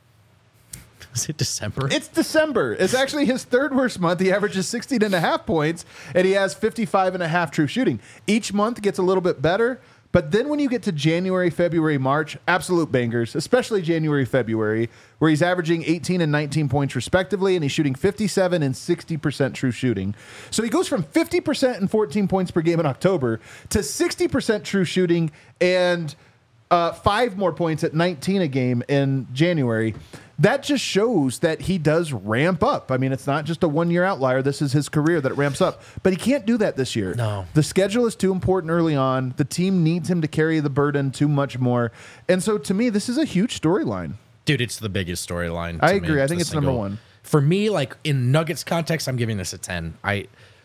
Speaker 2: Is it December?
Speaker 1: It's December. It's actually his third worst month. He averages sixteen and a half points, and he has fifty-five and a half true shooting. Each month gets a little bit better, but then when you get to January, February, March, absolute bangers, especially January, February, where he's averaging eighteen and nineteen points respectively, and he's shooting fifty-seven and sixty percent true shooting. So he goes from fifty percent and fourteen points per game in October to sixty percent true shooting and uh, five more points at nineteen a game in January. That just shows that he does ramp up. I mean, it's not just a one-year outlier. This is his career that it ramps up. But he can't do that this year.
Speaker 2: No.
Speaker 1: The schedule is too important early on. The team needs him to carry the burden too much more. And so, to me, this is a huge storyline.
Speaker 2: Dude, it's the biggest storyline.
Speaker 1: I
Speaker 2: to
Speaker 1: agree.
Speaker 2: me.
Speaker 1: I think it's
Speaker 2: single.
Speaker 1: number one.
Speaker 2: For me, like, in Nuggets context, I'm giving this a ten. I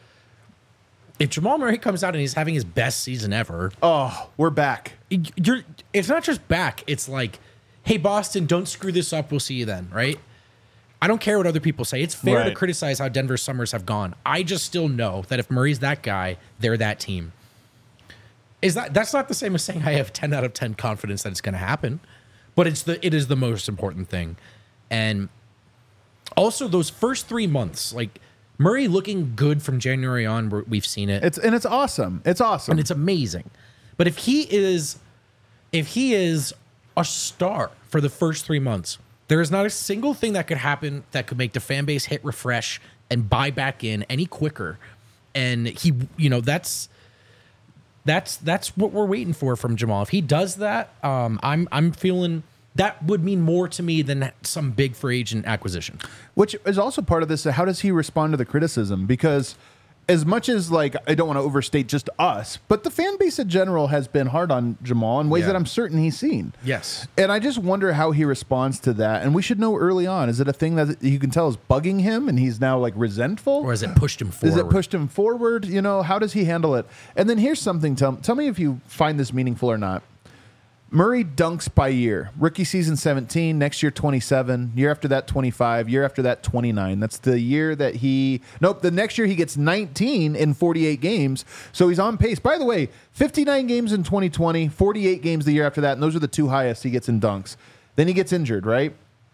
Speaker 2: If Jamal Murray comes out and he's having his best season ever,
Speaker 1: Oh, we're back.
Speaker 2: you're it's not just back. It's like, hey, Boston, don't screw this up. We'll see you then, right? I don't care what other people say. It's fair
Speaker 1: Right.
Speaker 2: to criticize how Denver summers have gone. I just still know that if Murray's that guy, they're that team. Is that that's not the same as saying I have ten out of ten confidence that it's going to happen, but it's the it is the most important thing. And also those first three months, like Murray looking good from January on, we're- we've seen it.
Speaker 1: It's and it's awesome. It's awesome.
Speaker 2: And it's amazing. But if he is if he is a star for the first three months, there is not a single thing that could happen that could make the fan base hit refresh and buy back in any quicker. And he, you know, that's that's that's what we're waiting for from Jamal. If he does that, um, I'm I'm feeling that would mean more to me than some big free agent acquisition.
Speaker 1: Which is also part of this. How does he respond to the criticism? Because as much as, like, I don't want to overstate just us, but the fan base in general has been hard on Jamal in ways
Speaker 2: Yeah.
Speaker 1: that I'm certain he's seen.
Speaker 2: Yes.
Speaker 1: And I just wonder how he responds to that. And we should know early on. Is it a thing that you can tell is bugging him and he's now, like, resentful?
Speaker 2: Or has it pushed him forward?
Speaker 1: Is it pushed him forward? You know, how does he handle it? And then here's something. Tell, tell me if you find this meaningful or not. Murray dunks by year. Rookie season seventeen, next year twenty-seven, year after that twenty-five, year after that twenty-nine. That's the year that he Nope, the next year he gets nineteen in forty-eight games. So he's on pace. By the way, fifty-nine games in twenty twenty, forty-eight games the year after that, and those are the two highest he gets in dunks. Then he gets injured, right?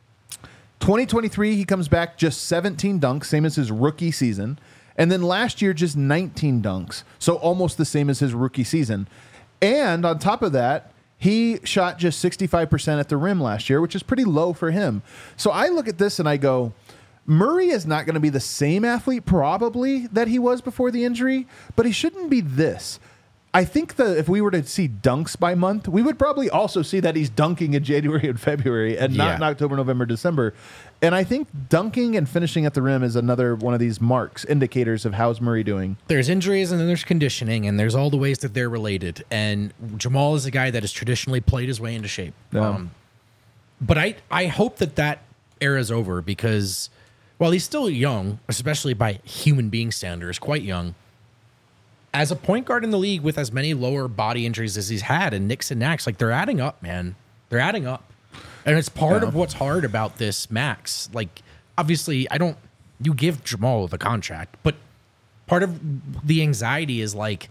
Speaker 1: twenty twenty-three, he comes back just seventeen dunks, same as his rookie season. And then last year, just nineteen dunks. So almost the same as his rookie season. And on top of that, he shot just sixty-five percent at the rim last year, which is pretty low for him. So I look at this and I go, Murray is not going to be the same athlete probably that he was before the injury, but he shouldn't be this. I think that if we were to see dunks by month, we would probably also see that he's dunking in January and February and not
Speaker 2: Yeah.
Speaker 1: in October, November, December. And I think dunking and finishing at the rim is another one of these marks, indicators of how's Murray doing.
Speaker 2: There's injuries and then there's conditioning and there's all the ways that they're related. And Jamal is a guy that has traditionally played his way into shape.
Speaker 1: Yeah.
Speaker 2: Um, but I, I hope that that era is over because while he's still young, especially by human being standards, quite young, as a point guard in the league with as many lower body injuries as he's had and nicks and knacks, like they're adding up, man. They're adding up. And it's part
Speaker 1: Yeah.
Speaker 2: of what's hard about this max. Like, obviously, I don't, you give Jamal the contract, but part of the anxiety is like,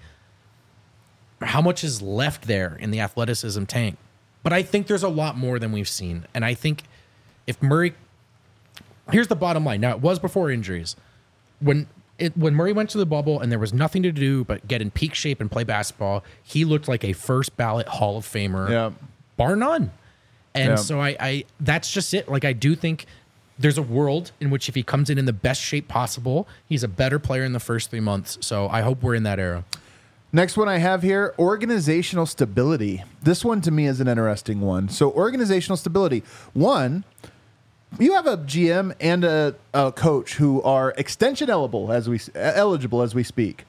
Speaker 2: how much is left there in the athleticism tank? But I think there's a lot more than we've seen. And I think if Murray, here's the bottom line. Now, it was before injuries. When it, when Murray went to the bubble and there was nothing to do but get in peak shape and play basketball, he looked like a first ballot Hall of Famer,
Speaker 1: Yeah.
Speaker 2: bar none. And
Speaker 1: Yeah.
Speaker 2: so I, I, that's just it. Like, I do think there's a world in which if he comes in in the best shape possible, he's a better player in the first three months. So I hope we're in that era.
Speaker 1: Next one I have here, organizational stability. This one to me is an interesting one. So organizational stability. One, you have a G M and a, a coach who are extension eligible as we eligible as we speak.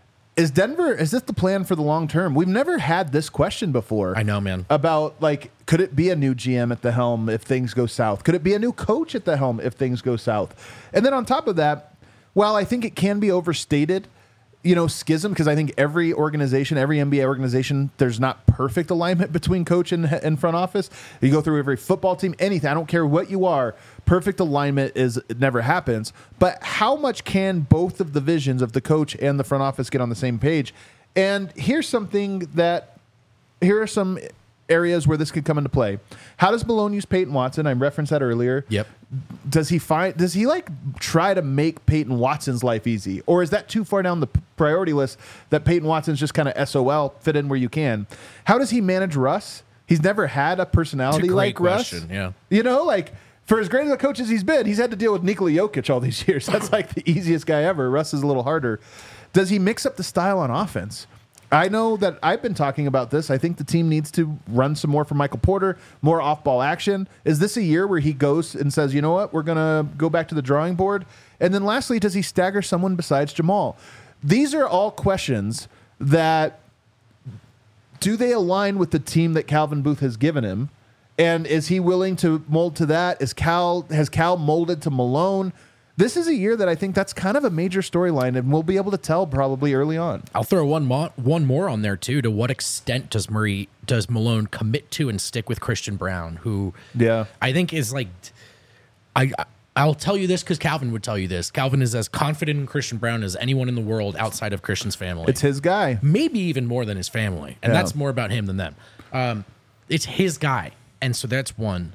Speaker 1: Is Denver, is this the plan for the long term? We've never had this question before.
Speaker 2: I know, man.
Speaker 1: About, like, could it be a new G M at the helm if things go south? Could it be a new coach at the helm if things go south? And then on top of that, while I think it can be overstated, you know, schism, because I think every organization, every N B A organization, there's not perfect alignment between coach and, and front office. You go through every football team, anything, I don't care what you are, perfect alignment is it never happens. But how much can both of the visions of the coach and the front office get on the same page? And here's something that, here are some areas where this could come into play. How does Malone use Peyton Watson? I referenced that earlier.
Speaker 2: Yep.
Speaker 1: Does he find, does he like try to make Peyton Watson's life easy? Or is that too far down the p- priority list that Peyton Watson's just kind of S O L, fit in where you can? How does he manage Russ? He's never had a personality
Speaker 2: It's a
Speaker 1: like
Speaker 2: great
Speaker 1: Russ.
Speaker 2: question, yeah.
Speaker 1: You know, like for as great as a coach as he's been, he's had to deal with Nikola Jokic all these years. That's like the easiest guy ever. Russ is a little harder. Does he mix up the style on offense? I know that I've been talking about this. I think the team needs to run some more for Michael Porter, more off-ball action. Is this a year where he goes and says, you know what, we're going to go back to the drawing board? And then lastly, does he stagger someone besides Jamal? These are all questions that, do they align with the team that Calvin Booth has given him? And is he willing to mold to that? Is Cal, has Cal molded to Malone? This is a year that I think that's kind of a major storyline, and we'll be able to tell probably early on.
Speaker 2: I'll throw one mo- one more on there too. To what extent does Murray does Malone commit to and stick with Christian Brown, who
Speaker 1: Yeah.
Speaker 2: I think is like, I I'll tell you this because Calvin would tell you this. Calvin is as confident in Christian Brown as anyone in the world outside of Christian's family.
Speaker 1: It's his guy.
Speaker 2: Maybe even more than his family, and
Speaker 1: Yeah.
Speaker 2: that's more about him than them. Um, it's his guy, and so that's one.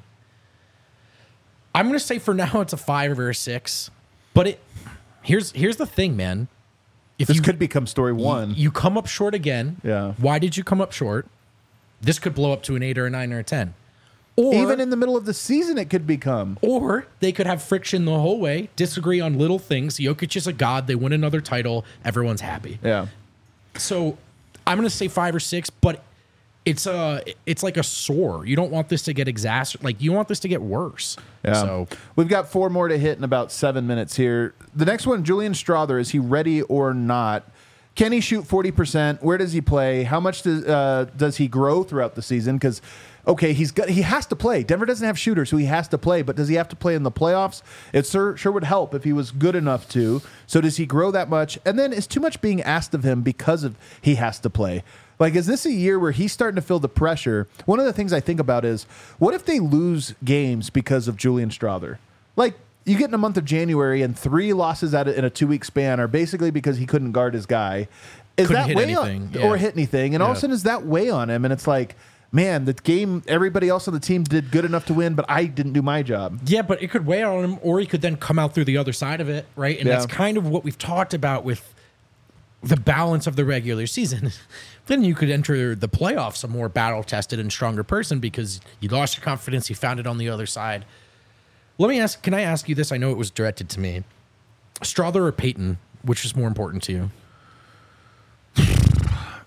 Speaker 2: I'm going to say for now it's a five or a six, but it here's here's the thing, man. If
Speaker 1: This
Speaker 2: you
Speaker 1: could become story one.
Speaker 2: you come up short again,
Speaker 1: Yeah.
Speaker 2: Why did you come up short? This could blow up to an eight or a nine or a ten, or
Speaker 1: Even in the middle of the season, it could become.
Speaker 2: or they could have friction the whole way, disagree on little things. Jokic is a god. They win another title. Everyone's happy.
Speaker 1: Yeah.
Speaker 2: So I'm going to say five or six, but it's a it's like a sore. You don't want this to get exacerbated. Like you want this to get worse.
Speaker 1: Yeah.
Speaker 2: So
Speaker 1: We've got four more to hit in about seven minutes here. The next one, Julian Strawther, is he ready or not? Can he shoot forty percent? Where does he play? How much does uh, does he grow throughout the season? Because, okay, he's got he has to play. Denver doesn't have shooters, so he has to play. But does he have to play in the playoffs? It sure, sure would help if he was good enough to. So does he grow that much? And then is too much being asked of him because of he has to play? Like, is this a year where he's starting to feel the pressure? One of the things I think about is, what if they lose games because of Julian Strawther? Like, you get in the month of January and three losses out of, in a two-week span are basically because he couldn't guard his guy. Is
Speaker 2: Couldn't
Speaker 1: that
Speaker 2: hit
Speaker 1: weigh
Speaker 2: anything,
Speaker 1: on,
Speaker 2: yeah.
Speaker 1: or hit anything? And all of a
Speaker 2: Yeah.
Speaker 1: sudden, is that weigh on him? And it's like, man, the game, everybody else on the team did good enough to win, but I didn't do my job.
Speaker 2: yeah, but it could weigh on him, or he could then come out through the other side of it, right? And
Speaker 1: Yeah.
Speaker 2: that's kind of what we've talked about with the balance of the regular season. Then you could enter the playoffs a more battle-tested and stronger person because you lost your confidence, you found it on the other side. Let me ask, can I ask you this? I know it was directed to me. Strawther or Peyton, which is more important to you?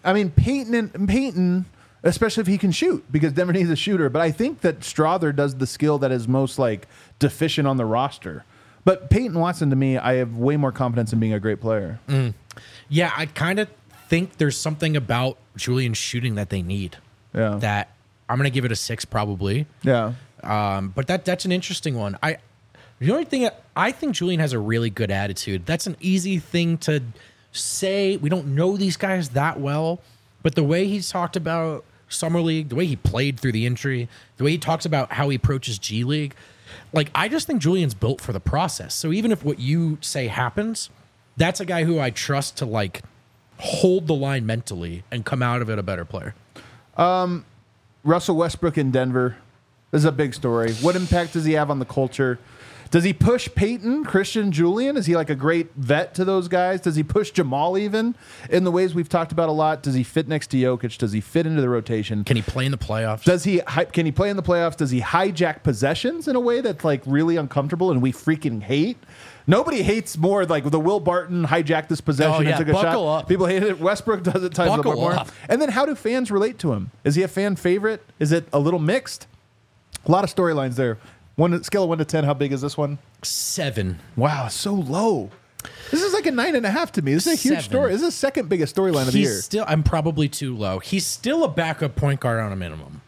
Speaker 1: I mean, Peyton and Peyton, especially if he can shoot, because Denver needs a shooter. But I think that Strother does the skill that is most like deficient on the roster. But Peyton Watson, to me, I have way more confidence in being a great player.
Speaker 2: Mm. Yeah, I kind of think there's something about Julian's shooting that they need.
Speaker 1: Yeah.
Speaker 2: That I'm going to give it a six probably.
Speaker 1: Yeah.
Speaker 2: Um, but that that's an interesting one. I the only thing I think Julian has a really good attitude. That's an easy thing to say. We don't know these guys that well, but the way he's talked about Summer League, the way he played through the injury, the way he talks about how he approaches G League, like I just think Julian's built for the process. So even if what you say happens, that's a guy who I trust to like hold the line mentally and come out of it a better player.
Speaker 1: Um, Russell Westbrook in Denver. This is a big story. What impact does he have on the culture? Does he push Peyton, Christian, Julian? Is he like a great vet to those guys? Does he push Jamal even in the ways we've talked about a lot? Does he fit next to Jokic? Does he fit into the rotation?
Speaker 2: Can he play in the playoffs?
Speaker 1: Does he can he play in the playoffs? Does he hijack possessions in a way that's like really uncomfortable and we freaking hate? Nobody hates more like the Will Barton hijacked this possession
Speaker 2: Oh, yeah.
Speaker 1: and took a
Speaker 2: Buckle
Speaker 1: shot.
Speaker 2: up.
Speaker 1: People hate it. Westbrook does it times
Speaker 2: Buckle
Speaker 1: more.
Speaker 2: up.
Speaker 1: And then how do fans relate to him? Is he a fan favorite? Is it a little mixed? A lot of storylines there. One scale of one to ten. How big is this one?
Speaker 2: Seven.
Speaker 1: Wow, so low. This is like a nine and a half to me. This is a huge
Speaker 2: Seven.
Speaker 1: story. This is the second biggest storyline of the
Speaker 2: He's
Speaker 1: year.
Speaker 2: still. I'm probably too low. He's still a backup point guard on a minimum.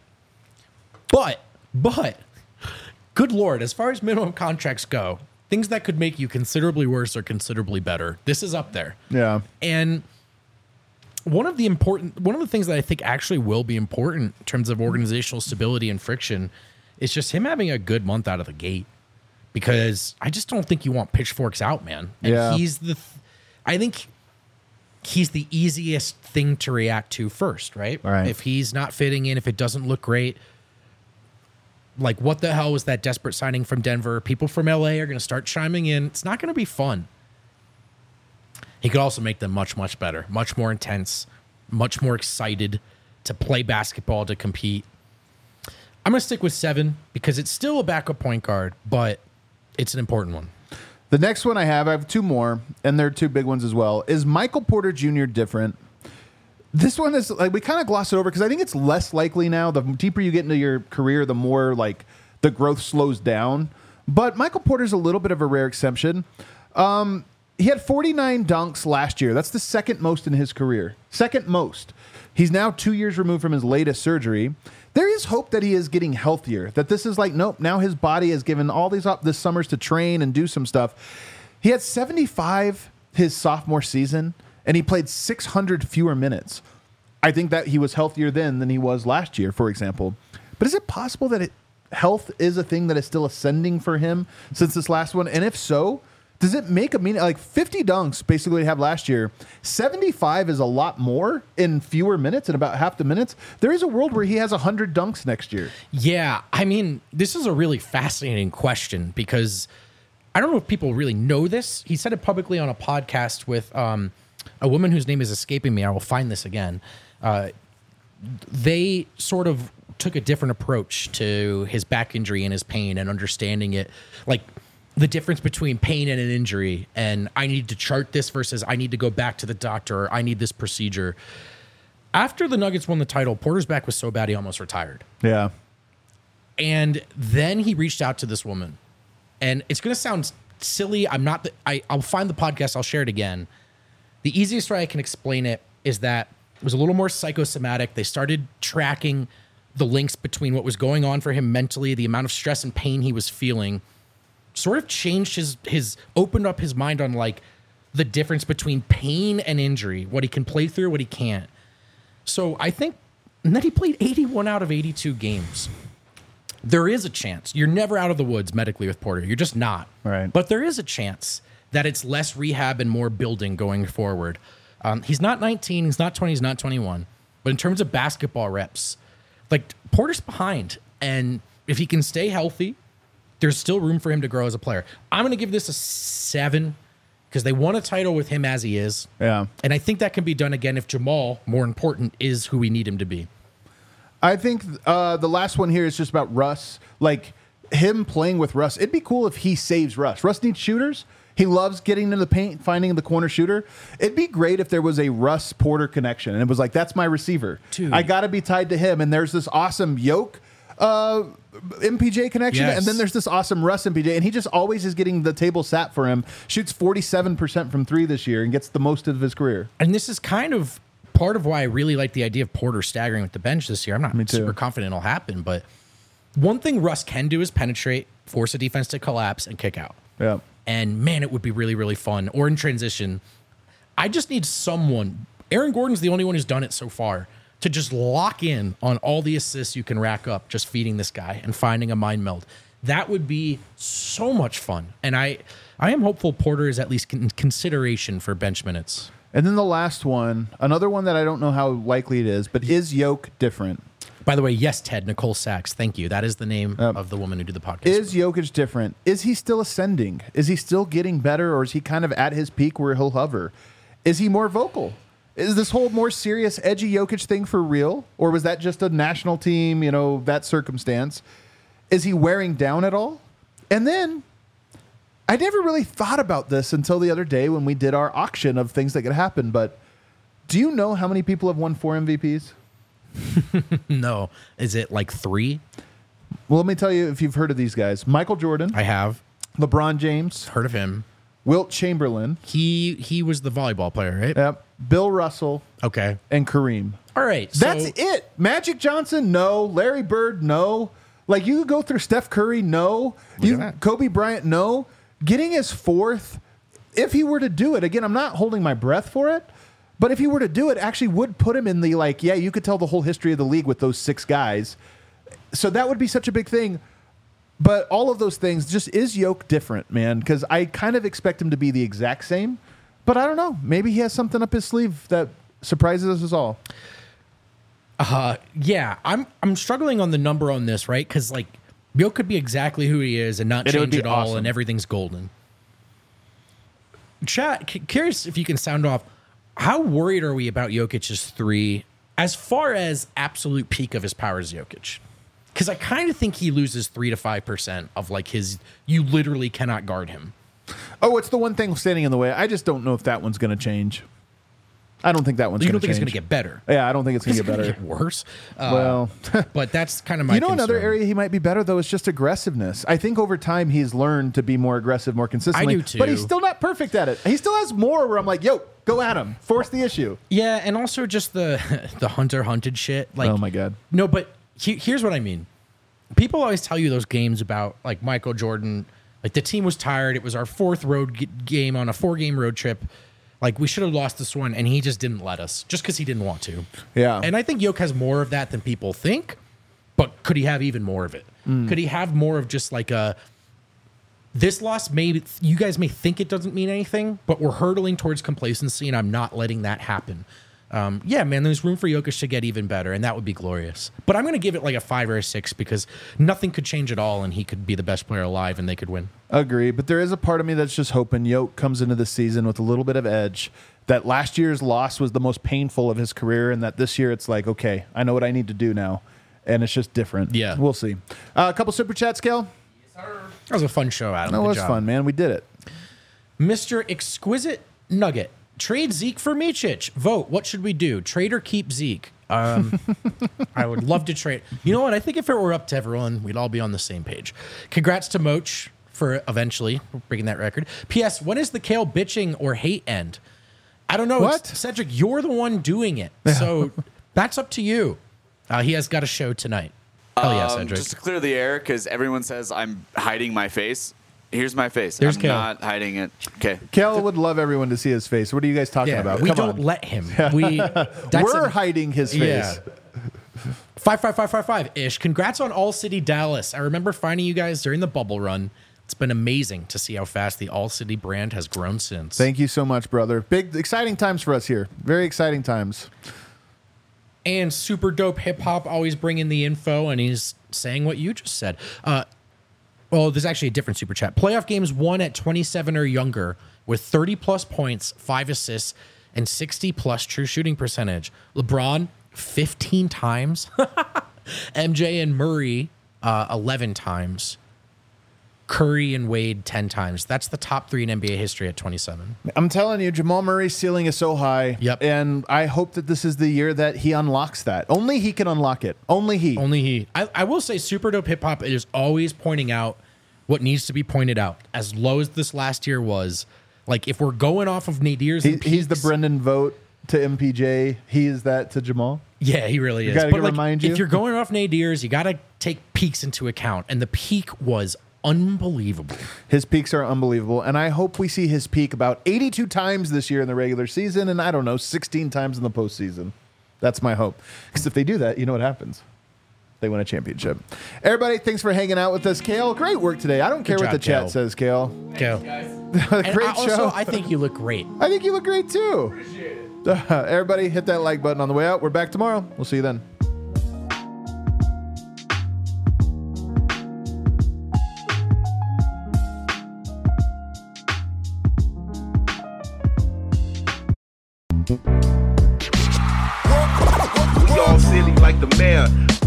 Speaker 2: But, but, good Lord, as far as minimum contracts go, things that could make you considerably worse or considerably better, this is up there.
Speaker 1: Yeah.
Speaker 2: And one of the important, one of the things that I think actually will be important in terms of organizational stability and friction is just him having a good month out of the gate. Because I just don't think you want pitchforks out, man. And
Speaker 1: Yeah.
Speaker 2: he's the, th- I think he's the easiest thing to react to first, right?
Speaker 1: Right.
Speaker 2: If he's not fitting in, if it doesn't look great, like what the hell was that desperate signing from Denver? People from L A are going to start chiming in. It's not going to be fun. He could also make them much, much better, much more intense, much more excited to play basketball, to compete. I'm going to stick with seven because it's still a backup point guard, but it's an important one.
Speaker 1: The next one I have, I have two more, and they're two big ones as well. Is Michael Porter Junior different? This one is like we kind of gloss it over because I think it's less likely now. The deeper you get into your career, the more like the growth slows down. But Michael Porter's a little bit of a rare exception. Um, he had forty-nine dunks last year. That's the second most in his career. Second most. He's now two years removed from his latest surgery. There is hope that he is getting healthier, that this is like, nope, now his body has given all these up this summers to train and do some stuff. He had seventy-five his sophomore season, and he played six hundred fewer minutes. I think that he was healthier then than he was last year, for example. But is it possible that it, health is a thing that is still ascending for him since this last one? And if so, does it make a meaning? Like fifty dunks, basically, we have last year. seventy-five is a lot more in fewer minutes, in about half the minutes. There is a world where he has one hundred dunks next year.
Speaker 2: Yeah, I mean, this is a really fascinating question because I don't know if people really know this. He said it publicly on a podcast with um, a woman whose name is escaping me. I will find this again. Uh, they sort of took a different approach to his back injury and his pain and understanding it. Like, the difference between pain and an injury, and I need to chart this versus I need to go back to the doctor, or I need this procedure. After the Nuggets won the title, Porter's back was so bad he almost retired.
Speaker 1: Yeah.
Speaker 2: And then he reached out to this woman. And it's going to sound silly. I'm not, the, I, I'll find the podcast. I'll share it again. The easiest way I can explain it is that it was a little more psychosomatic. They started tracking the links between what was going on for him mentally, the amount of stress and pain he was feeling, sort of changed his, his opened up his mind on like the difference between pain and injury, what he can play through, what he can't. So I think, and then he played eighty-one out of eighty-two games. There is a chance. You're never out of the woods medically with Porter. You're just not.
Speaker 1: Right.
Speaker 2: But there is a chance that it's less rehab and more building going forward. Um, he's not nineteen, he's not twenty, he's not twenty-one. But in terms of basketball reps, like Porter's behind. And if he can stay healthy, there's still room for him to grow as a player. I'm going to give this a seven because they won a title with him as he is.
Speaker 1: Yeah.
Speaker 2: And I think that can be done again if Jamal, more important, is who we need him to be.
Speaker 1: I think uh, the last one here is just about Russ. Like, him playing with Russ, it'd be cool if he saves Russ. Russ needs shooters. He loves getting into the paint, finding the corner shooter. It'd be great if there was a Russ Porter connection, and it was like, that's my receiver.
Speaker 2: Dude.
Speaker 1: I got to be tied to him. And there's this awesome Yoke uh, M P J connection,
Speaker 2: Yes.
Speaker 1: and then there's this awesome Russ M P J, and he just always is getting the table sat for him. Shoots forty-seven percent from three this year and gets the most of his career.
Speaker 2: And this is kind of part of why I really like the idea of Porter staggering with the bench this year. I'm not
Speaker 1: Me too.
Speaker 2: super confident it'll happen, but one thing Russ can do is penetrate, force a defense to collapse, and kick out.
Speaker 1: Yeah.
Speaker 2: And man, it would be really, really fun. Or in transition, I just need someone. Aaron Gordon's the only one who's done it so far to just lock in on all the assists you can rack up just feeding this guy and finding a mind meld. That would be so much fun. And I, I am hopeful Porter is at least in consideration for bench minutes.
Speaker 1: And then the last one, another one that I don't know how likely it is, but is Yoke different?
Speaker 2: By the way, yes, Ted, Nicole Sachs. Thank you. That is the name
Speaker 1: Yep.
Speaker 2: of the woman who did the podcast.
Speaker 1: Is Jokic different? Is he still ascending? Is he still getting better, or is he kind of at his peak where he'll hover? Is he more vocal? Is this whole more serious, edgy Jokic thing for real? Or was that just a national team, you know, that circumstance? Is he wearing down at all? And then, I never really thought about this until the other day when we did our auction of things that could happen, but do you know how many people have won four M V Ps?
Speaker 2: No. Is it like three?
Speaker 1: Well, let me tell you if you've heard of these guys. Michael Jordan,
Speaker 2: I have
Speaker 1: LeBron James,
Speaker 2: heard of him.
Speaker 1: Wilt Chamberlain,
Speaker 2: He he was the volleyball player, right?
Speaker 1: yep, Bill Russell,
Speaker 2: Okay.
Speaker 1: and Kareem.
Speaker 2: All right.
Speaker 1: That's
Speaker 2: so,
Speaker 1: it. Magic Johnson, no. Larry Bird, no. Like you could go through Steph Curry, no.
Speaker 2: Look
Speaker 1: You
Speaker 2: at that.
Speaker 1: Kobe Bryant, no. Getting his fourth, if he were to do it, again, I'm not holding my breath for it, but if he were to do it, actually would put him in the like, yeah, you could tell the whole history of the league with those six guys. So that would be such a big thing. But all of those things, just is Yoke different, man? Because I kind of expect him to be the exact same, but I don't know. Maybe he has something up his sleeve that surprises us all.
Speaker 2: Uh, yeah, I'm I'm struggling on the number on this, right? Because like Bill could be exactly who he is and not
Speaker 1: And it would
Speaker 2: change
Speaker 1: be
Speaker 2: it all,
Speaker 1: awesome.
Speaker 2: and everything's golden. Chat, c- curious if you can sound off. How worried are we about Jokic's three as far as absolute peak of his powers, Jokic? Because I kind of think he loses three to five percent of like his. You literally cannot guard him.
Speaker 1: Oh, it's the one thing standing in the way. I just don't know if that one's going to change. I don't think that one's
Speaker 2: You
Speaker 1: going
Speaker 2: don't
Speaker 1: to
Speaker 2: think
Speaker 1: change.
Speaker 2: it's going to get better?
Speaker 1: Yeah, I don't think it's going
Speaker 2: Is
Speaker 1: to
Speaker 2: it
Speaker 1: get
Speaker 2: gonna
Speaker 1: better.
Speaker 2: get worse? Uh,
Speaker 1: Well,
Speaker 2: but that's kind of my.
Speaker 1: you know, another
Speaker 2: concern.
Speaker 1: area he might be better though is just aggressiveness. I think over time he's learned to be more aggressive, more consistently.
Speaker 2: I do, too.
Speaker 1: But he's still not perfect at it. He still has more where I'm like, yo, go at him, force the issue.
Speaker 2: Yeah, and also just the the hunter hunted shit. Like,
Speaker 1: Oh my God.
Speaker 2: No, but he, here's what I mean. People always tell you those games about like Michael Jordan. Like the team was tired. It was our fourth road g- game on a four game road trip. Like we should have lost this one, and he just didn't let us, just because he didn't want to.
Speaker 1: Yeah.
Speaker 2: And I think Yoke has more of that than people think. But could he have even more of it?
Speaker 1: Mm.
Speaker 2: Could he have more of just like a this loss? Maybe you guys may think it doesn't mean anything, but we're hurtling towards complacency, and I'm not letting that happen. Um, yeah, man, there's room for Jokic to get even better, and that would be glorious. But I'm going to give it like a five or a six because nothing could change at all, and he could be the best player alive, and they could win.
Speaker 1: Agree, but there is a part of me that's just hoping Yoke comes into the season with a little bit of edge. That last year's loss was the most painful of his career, and that this year it's like, okay, I know what I need to do now, and it's just different.
Speaker 2: Yeah.
Speaker 1: We'll see. Uh, a couple super chats, Scale.
Speaker 2: That was a fun show, Adam.
Speaker 1: That
Speaker 2: Good
Speaker 1: was
Speaker 2: job.
Speaker 1: fun, man. We did it.
Speaker 2: Mister Exquisite Nugget. Trade Zeke for Micic. Vote. What should we do? Trade or keep Zeke? Um, I would love to trade. You know what? I think if it were up to everyone, we'd all be on the same page. Congrats to Moach for eventually breaking that record. P S. When is the Kale bitching or hate end? I don't know.
Speaker 1: What?
Speaker 2: It's- Cedric, you're the one doing it. So that's up to you. Uh, he has got a show tonight. Oh, yeah,
Speaker 4: Um,
Speaker 2: Cedric.
Speaker 4: just to clear the air, because everyone says I'm hiding my face. Here's my face.
Speaker 2: There's
Speaker 4: I'm
Speaker 2: Kale.
Speaker 4: not hiding it. Okay.
Speaker 1: Kel would love everyone to see his face. What are you guys talking
Speaker 2: yeah,
Speaker 1: about?
Speaker 2: we
Speaker 1: Come
Speaker 2: don't
Speaker 1: on.
Speaker 2: let him. We that's
Speaker 1: We're
Speaker 2: a-
Speaker 1: hiding his face.
Speaker 2: Yeah. Five five five five five ish. Congrats on All City Dallas. I remember finding you guys during the bubble run. It's been amazing to see how fast the All City brand has grown since.
Speaker 1: Thank you so much, brother. Big, exciting times for us here. Very exciting times.
Speaker 2: And super dope hip hop always bringing the info, and he's saying what you just said. Uh, well, there's actually a different super chat. Playoff games won at twenty-seven or younger with thirty plus points, five assists, and sixty plus true shooting percentage. LeBron fifteen times, M J and Murray uh, eleven times. Curry and Wade ten times. That's the top three in N B A history at twenty-seven.
Speaker 1: I'm telling you, Jamal Murray's ceiling is so high.
Speaker 2: Yep.
Speaker 1: And I hope that this is the year that he unlocks that. Only he can unlock it. Only he.
Speaker 2: Only he. I, I will say Super Dope Hip Hop is always pointing out what needs to be pointed out. As low as this last year was, like if we're going off of Nadir's
Speaker 1: He,
Speaker 2: and
Speaker 1: he's the
Speaker 2: peaks-
Speaker 1: Brendan vote to M P J. He is that to Jamal.
Speaker 2: Yeah, he really is.
Speaker 1: gotta
Speaker 2: But like,
Speaker 1: remind you.
Speaker 2: if you're going off Nadir's, you got to take peaks into account. And the peak was unbelievable.
Speaker 1: His peaks are unbelievable, and I hope we see his peak about eighty-two times this year in the regular season, and I don't know, sixteen times in the postseason. That's my hope. Because if they do that, you know what happens? They win a championship. Everybody, thanks for hanging out with us. Kale, great work today. I don't care
Speaker 2: Good
Speaker 1: what the
Speaker 2: job, Kale.
Speaker 1: chat says, Kale.
Speaker 2: Go.
Speaker 1: Great
Speaker 2: And I
Speaker 1: show.
Speaker 2: also, I think you look great.
Speaker 1: I think you look great too. Appreciate it. Uh, everybody, hit that like button on the way out. We're back tomorrow. We'll see you then.
Speaker 5: We all silly like the mayor.